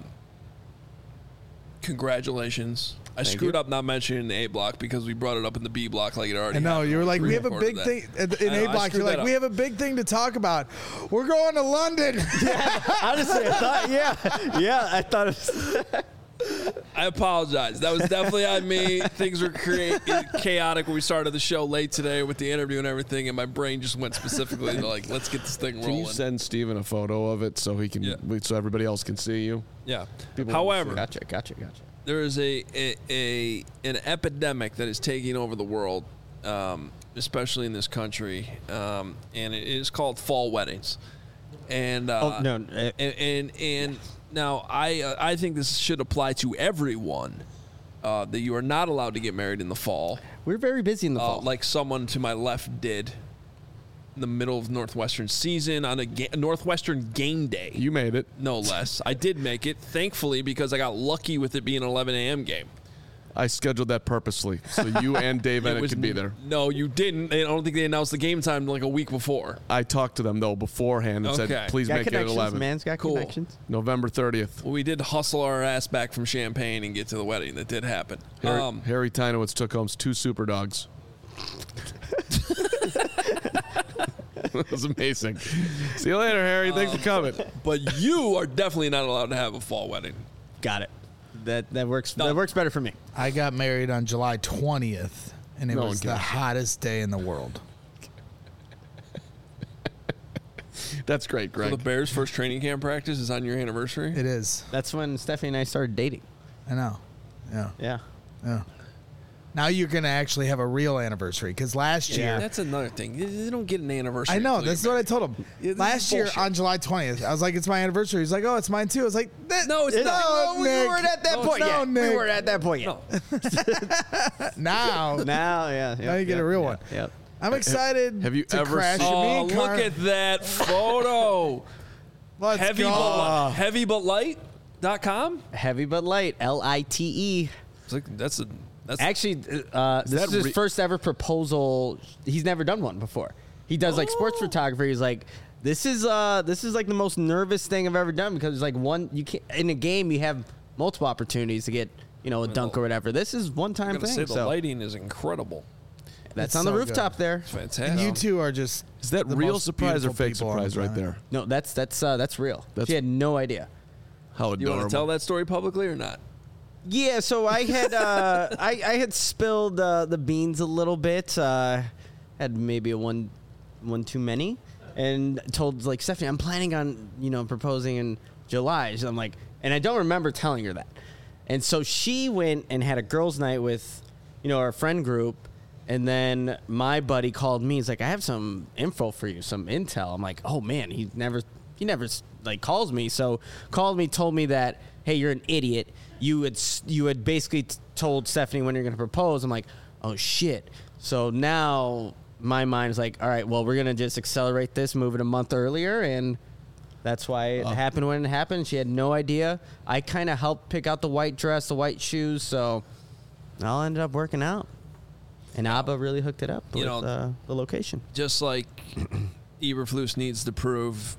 congratulations. I
Thank
screwed
you.
up not mentioning the A block because we brought it up in the B block like it already
I know,
happened.
you were like, we have a
Pre-recorded
big
that.
thing in
I know,
A
I
block.
screwed
You're like,
that
we
up.
have a big thing to talk about. We're going to London.
Honestly, I thought, yeah, yeah, I thought it was.
I apologize. That was definitely on me. Things were crea- chaotic when we started the show late today with the interview and everything, and my brain just went specifically to like, let's get this thing
Can
rolling.
you send Steven a photo of it so he can,
Yeah.
so everybody else can see you?
yeah.
People
However,
Gotcha, gotcha, gotcha.
there is a, a, a an epidemic that is taking over the world, um, especially in this country, um, and it is called fall weddings. And uh,
Oh, no, uh,
and and, and now I uh, I think this should apply to everyone, uh, that you are not allowed to get married in the fall,
We're very busy in the
uh,
fall.
like someone to my left did in the middle of Northwestern season on a ga- Northwestern game day.
You made it.
No less. I did make it, thankfully, because I got lucky with it being an eleven a.m. game.
I scheduled that purposely so you and Dave
It
Ennett
was
could be
n-
there.
No, you didn't. I don't think they announced the game time like a week before.
I talked to them though beforehand and
Okay.
said, "Please
got
make it at
connections,
eleven,
man's got
Cool.
connections.
November thirtieth."
Well, we did hustle our ass back from Champaign and get to the wedding. That did happen.
Harry,
Um,
Harry Tynowitz took home two super dogs. It was amazing. See you later, Harry. Thanks for coming.
but you are definitely not allowed to have a fall wedding.
Got it. That that works.
Done.
That works better for me.
I got married on July twentieth, and it
No one
was the
cares.
hottest day in the world.
That's great,
So the
Greg.
Bears' first training camp practice is on your anniversary.
It is.
That's when Stephanie and I started dating.
I know. Yeah.
Yeah.
Yeah. Now you're going to actually have a real anniversary because last year.
That's another thing. You- You don't get an anniversary.
I know.
until
That's
you're
what I told him.
Yeah, this
Last
is
year
bullshit.
on July twentieth, I was like, it's my anniversary. He's like, oh, it's mine too. I was like, that,
No, it's
no,
not.
we
Nick.
weren't at that
No,
point
no,
yet.
Nick.
We weren't at that point yet.
No.
Now,
Now, yeah.
now you get a real one.
Yep.
I'm excited
have you
to
ever
crash
seen-
me
Oh,
and
look
Car-
at that photo.
Let's
heavy,
go.
but, heavy but light dot com.
Heavy but light. L I T E.
It's like that's a that's
Actually, uh, this
that
is his
re-
first ever proposal. He's never done one before. He does like sports photography. He's like, this is uh, this is like the most nervous thing I've ever done because it's like one you can in a game you have multiple opportunities to get you know a dunk or whatever. This is one
I'm
time
gonna say
thing.
the
So
lighting is incredible.
that's
It's
on the
so
rooftop there.
It's
And
fantastic.
you two are just.
Is that
the
real
most
surprise or
beautiful
fake
people on the
surprise right
planet.
there?
No, that's that's uh, that's real.
That's-
she had no idea.
How
You
adorable.
want to tell that story publicly or not?
Yeah, so I had uh, I, I had spilled uh, the beans a little bit. Uh, had maybe a one one too many, and told like Stephanie, I'm planning on you know proposing in July. So I'm like, and I don't remember telling her that. And so she went and had a girls' night with you know our friend group, and then my buddy called me. He's like, I have some info for you, some intel. I'm like, oh man, he never he never like calls me. So called me, told me that, hey, you're an idiot. You had s- you had basically t- told Stephanie when you're going to propose. I'm like, oh shit. So now my mind is like, all right, well, we're going to just accelerate this, move it a month earlier, and that's why it happened when it happened. She had no idea. I kind of helped pick out the white dress, the white shoes, so it all ended up working out. And Abba really hooked it up
You
with
know-
uh, the location.
Just like Eberflus needs to prove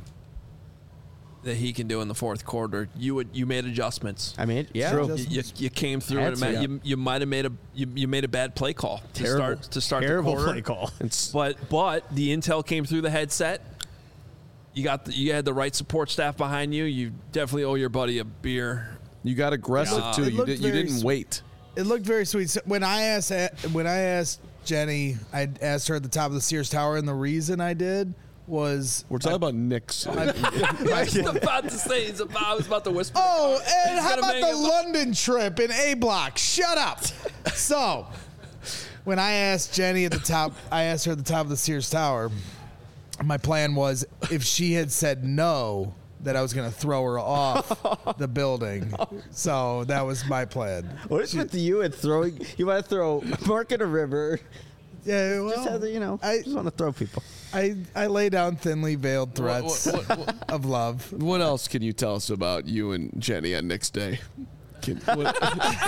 that he can do in the fourth quarter, you would you made adjustments.
I mean, yeah,
True.
You, you, you came through
Had
and
to,
it
yeah.
you, you might have made a you, you made a bad play call to
terrible,
start to start
terrible
the quarter.
play call.
It's-
But but the intel came through the headset. you got the, you had the right support staff behind you. You definitely owe your buddy a beer.
You got aggressive
Yeah.
too.
It
You,
looked
did, you
very
didn't
s-
wait.
It looked very sweet. So when I asked when I asked Jenny, I asked her at the top of the Sears Tower, and the reason I did was
We're talking about Nick's.
I was about to say he's about, I was about to whisper.
Oh, and
He's
how
gonna
about
make
the
it-
London trip in A Block? Shut up. So, when I asked Jenny at the top, I asked her at the top of the Sears Tower, my plan was if she had said no, that I was going to throw her off the building. So, that was my plan.
What is with you and throwing? You want to throw Mark in a river?
Yeah, well,
Just, as, you know,
I,
just want to throw people.
I, I lay down thinly veiled threats
What, what, what,
of love.
what else can you tell us about you and Jenny on Nick's day? Can, what,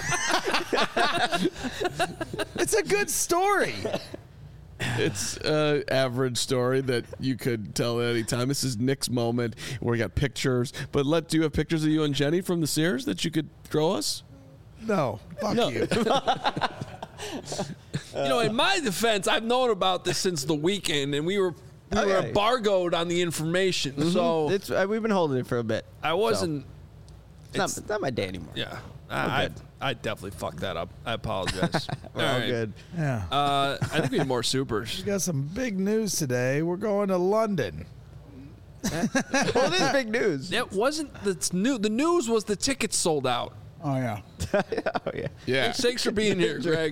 It's a good story.
it's an average story that you could tell at any time. This is Nick's moment where we got pictures. But let do you have pictures of you and Jenny from the Sears that you could throw us?
No, fuck
No.
you.
You know, in my defense, I've known about this since the weekend, and we were we
Oh,
were
yeah.
embargoed on the information. So
It's uh, we've been holding it for a bit.
I wasn't.
It's not,
it's-
it's not my day anymore.
Yeah, I, I
good.
I definitely fucked that up. I apologize.
We're all
right.
good.
Yeah.
Uh, I think we need more supers.
We got some big news today. We're going to London.
Well, this is big news.
It wasn't the new. The news was the tickets sold out.
Oh, yeah.
Oh yeah.
Yeah.
Thanks for being here, Greg.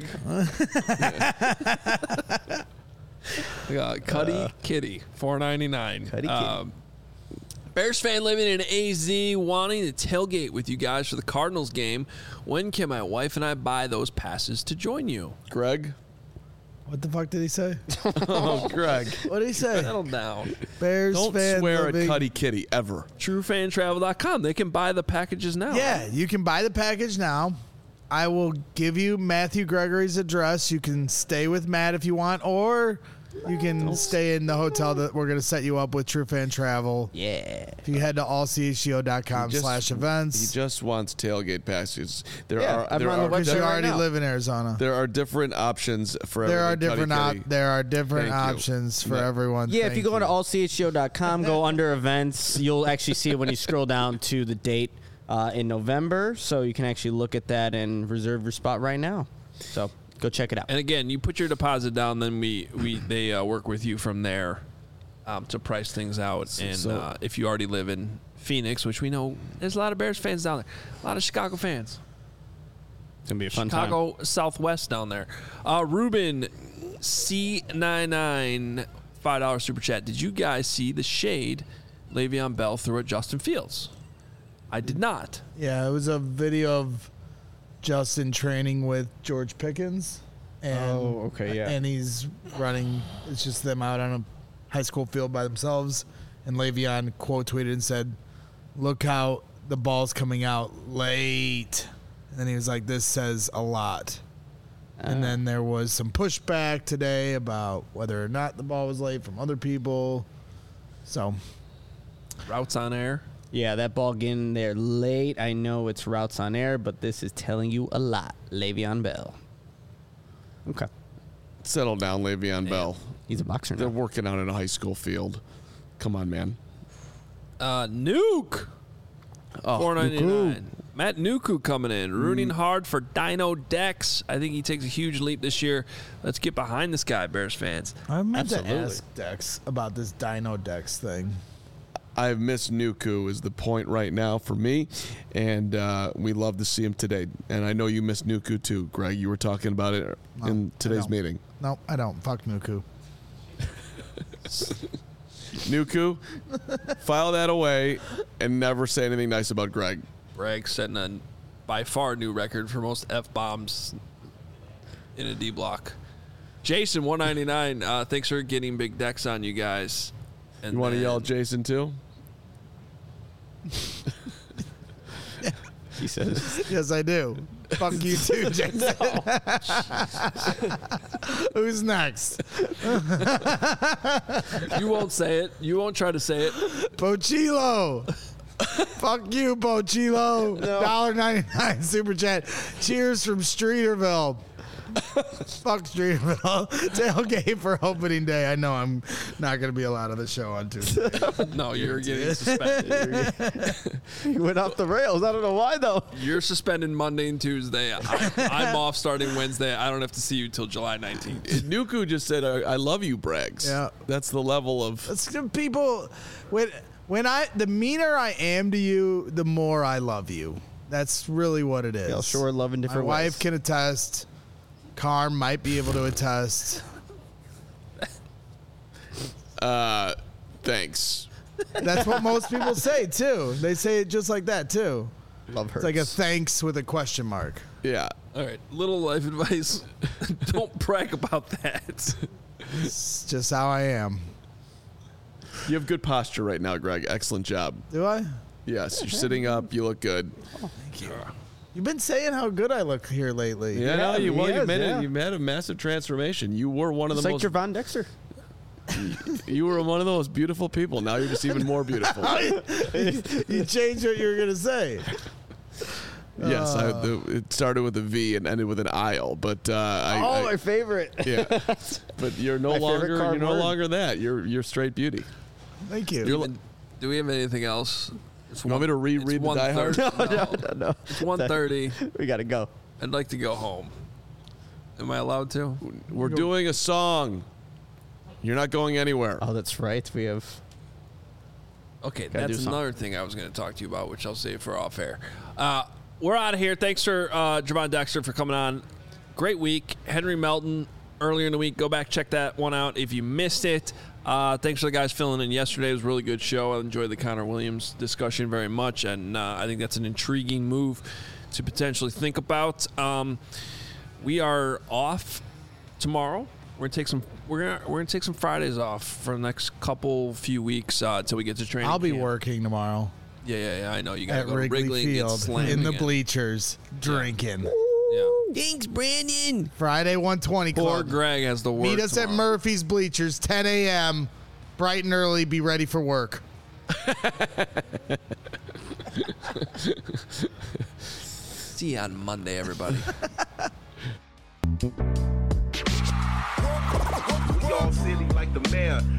We got Cuddy Kitty, four ninety nine.
Cuddy Kitty.
Bears fan living in A Z, wanting to tailgate with you guys for the Cardinals game. When can my wife and I buy those passes to join you?
Greg?
What the fuck did he say?
Oh, Greg.
What did he say?
Settle down.
Bears
Don't
fan
swear
living.
at Cuddy Kitty ever.
True Fan Travel dot com. They can buy the packages now.
Yeah, you can buy the package now. I will give you Matthew Gregory's address. You can stay with Matt if you want, or you can stay in the hotel that we're going to set you up with True Fan Travel.
Yeah.
If you head to all c h g o dot com
Just-
slash
He
events,
just wants tailgate passes. There
Yeah,
are
I'm
there
on the
are,
website
because you
there,
right
already
now.
live in Arizona.
there are different options for
There are
everything,
different
Cuddy
op-
Kitty.
there are different
Thank you.
options for
Yeah.
everyone.
Yeah, if
Thank
you go to all c h g o dot com, go under events, you'll actually see it when you scroll down to the date uh, in November. So you can actually look at that and reserve your spot right now. So go check it out.
And again, you put your deposit down, then we we they uh, work with you from there um, to price things out. And
so-
uh, if you already live in Phoenix, which we know there's a lot of Bears fans down there, a lot of Chicago fans,
It's going to be a fun time.
Chicago Southwest down there. Uh, Ruben C ninety-nine five dollar super chat. Did you guys see the shade Le'Veon Bell threw at Justin Fields? I did not.
Yeah, it was a video of Justin training with George Pickens. And,
Oh, okay, yeah.
And he's running. It's just them out on a high school field by themselves. And Le'Veon quote tweeted and said, "Look how the ball's coming out late." And then he was like, "This says a lot." And then there was some pushback today about whether or not the ball was late from other people. So
Routes on air.
Yeah, that ball getting there late. I know it's routes on air, but this is telling you a lot. Le'Veon Bell. Okay.
Settle down, Le'Veon Bell.
He's a boxer
They're
now.
working out in a high school field. Come on, man.
Uh, Nuke.
Oh,
four ninety-nine. Matt Nuku coming in,
Mm.
rooting hard for Dino Dex. I think he takes a huge leap this year. Let's get behind this guy, Bears fans.
I meant
Absolutely.
to ask Dex about this Dino Dex thing.
I miss Nuku is the point right now for me, and uh, we love to see him today. And I know you miss Nuku too, Greg. You were talking about it
No,
in
I
today's
don't.
meeting.
No, I don't. Fuck Nuku.
Nuku, file that away and never say anything nice about Greg.
Greg setting a by far new record for most F bombs in a D block. Jason one ninety-nine. Uh, thanks for getting big decks on you guys. And
You want to
then-
yell at Jason too?
He says.
Yes, I do. Fuck you too, Jason. Who's next?
You won't say it. You won't try to say it.
Pochilo. Fuck you, Pochilo. one ninety-nine super chat. Cheers from Streeterville. Fuck Streeterville. Tailgate for opening day. I know I'm not going to be allowed on the show on Tuesday.
No, you're getting suspended.
He went off the rails. I don't know why though.
You're suspended Monday and Tuesday. I, I'm off starting Wednesday. I don't have to see you till July nineteenth.
Nuku just said, I, I love you, Braggs.
Yeah.
That's the level of.
It's the people when when I the meaner I am to you, the more I love you. That's really what it is.
They'll sure love in different
My
ways.
wife can attest. Carm might be able to attest.
Uh, thanks.
That's what most people say too. They say it just like that too.
Love her.
It's like a thanks with a question mark.
Yeah.
All right, little life advice. Don't brag about that.
It's just how I am.
You have good posture right now, Greg. Excellent job.
Do I?
Yes, you're sitting up. You look good.
Thank you. You've been saying how good I look here lately.
Yeah, no, you,
he
well, you
is,
made
yeah.
it. You had a massive transformation. You were one of
Just
the
like
most.
Javon Dexter.
You were one of the most beautiful people. Now you're just even more beautiful.
You changed what you were gonna say.
Yes, I, the, it started with a V and ended with an aisle, but uh, I,
Oh,
I-
my favorite.
yeah. But you're no
My favorite
longer
card
you're no
word.
longer that. You're you're straight beauty.
Thank you.
Do we- Do we have anything else? It's
You want me to reread the Die Hard?
No,
no, no, no.
It's one thirty.
We gotta go.
I'd like to go home. Am I allowed to?
We're doing a song. You're not going anywhere.
Oh, that's right. We have.
Okay,
Gotta do
that's
something.
another thing I was going to talk to you about, which I'll save for off air. Uh, we're out of here. Thanks for uh, Javon Dexter for coming on. Great week. Henry Melton earlier in the week. Go back, check that one out if you missed it. Uh, thanks for the guys filling in yesterday. It was a really good show. I enjoyed the Connor Williams discussion very much, and uh, I think that's an intriguing move to potentially think about. Um, we are off tomorrow. We're gonna take some. We're gonna we're gonna take some Fridays off for the next couple few weeks uh, until we get to training.
I'll be
camp.
working tomorrow
Yeah, yeah, yeah. I know you got to
at
go to
Wrigley,
Wrigley and get
Field
slammed
in the
again.
bleachers drinking.
Yeah.
Thanks, Brandon.
Friday one twenty
Poor
club.
Greg has the work.
Meet us at
tomorrow.
Murphy's Bleachers, ten a.m. Bright and early. Be ready for work.
See you on Monday, everybody.
We all silly like the mayor.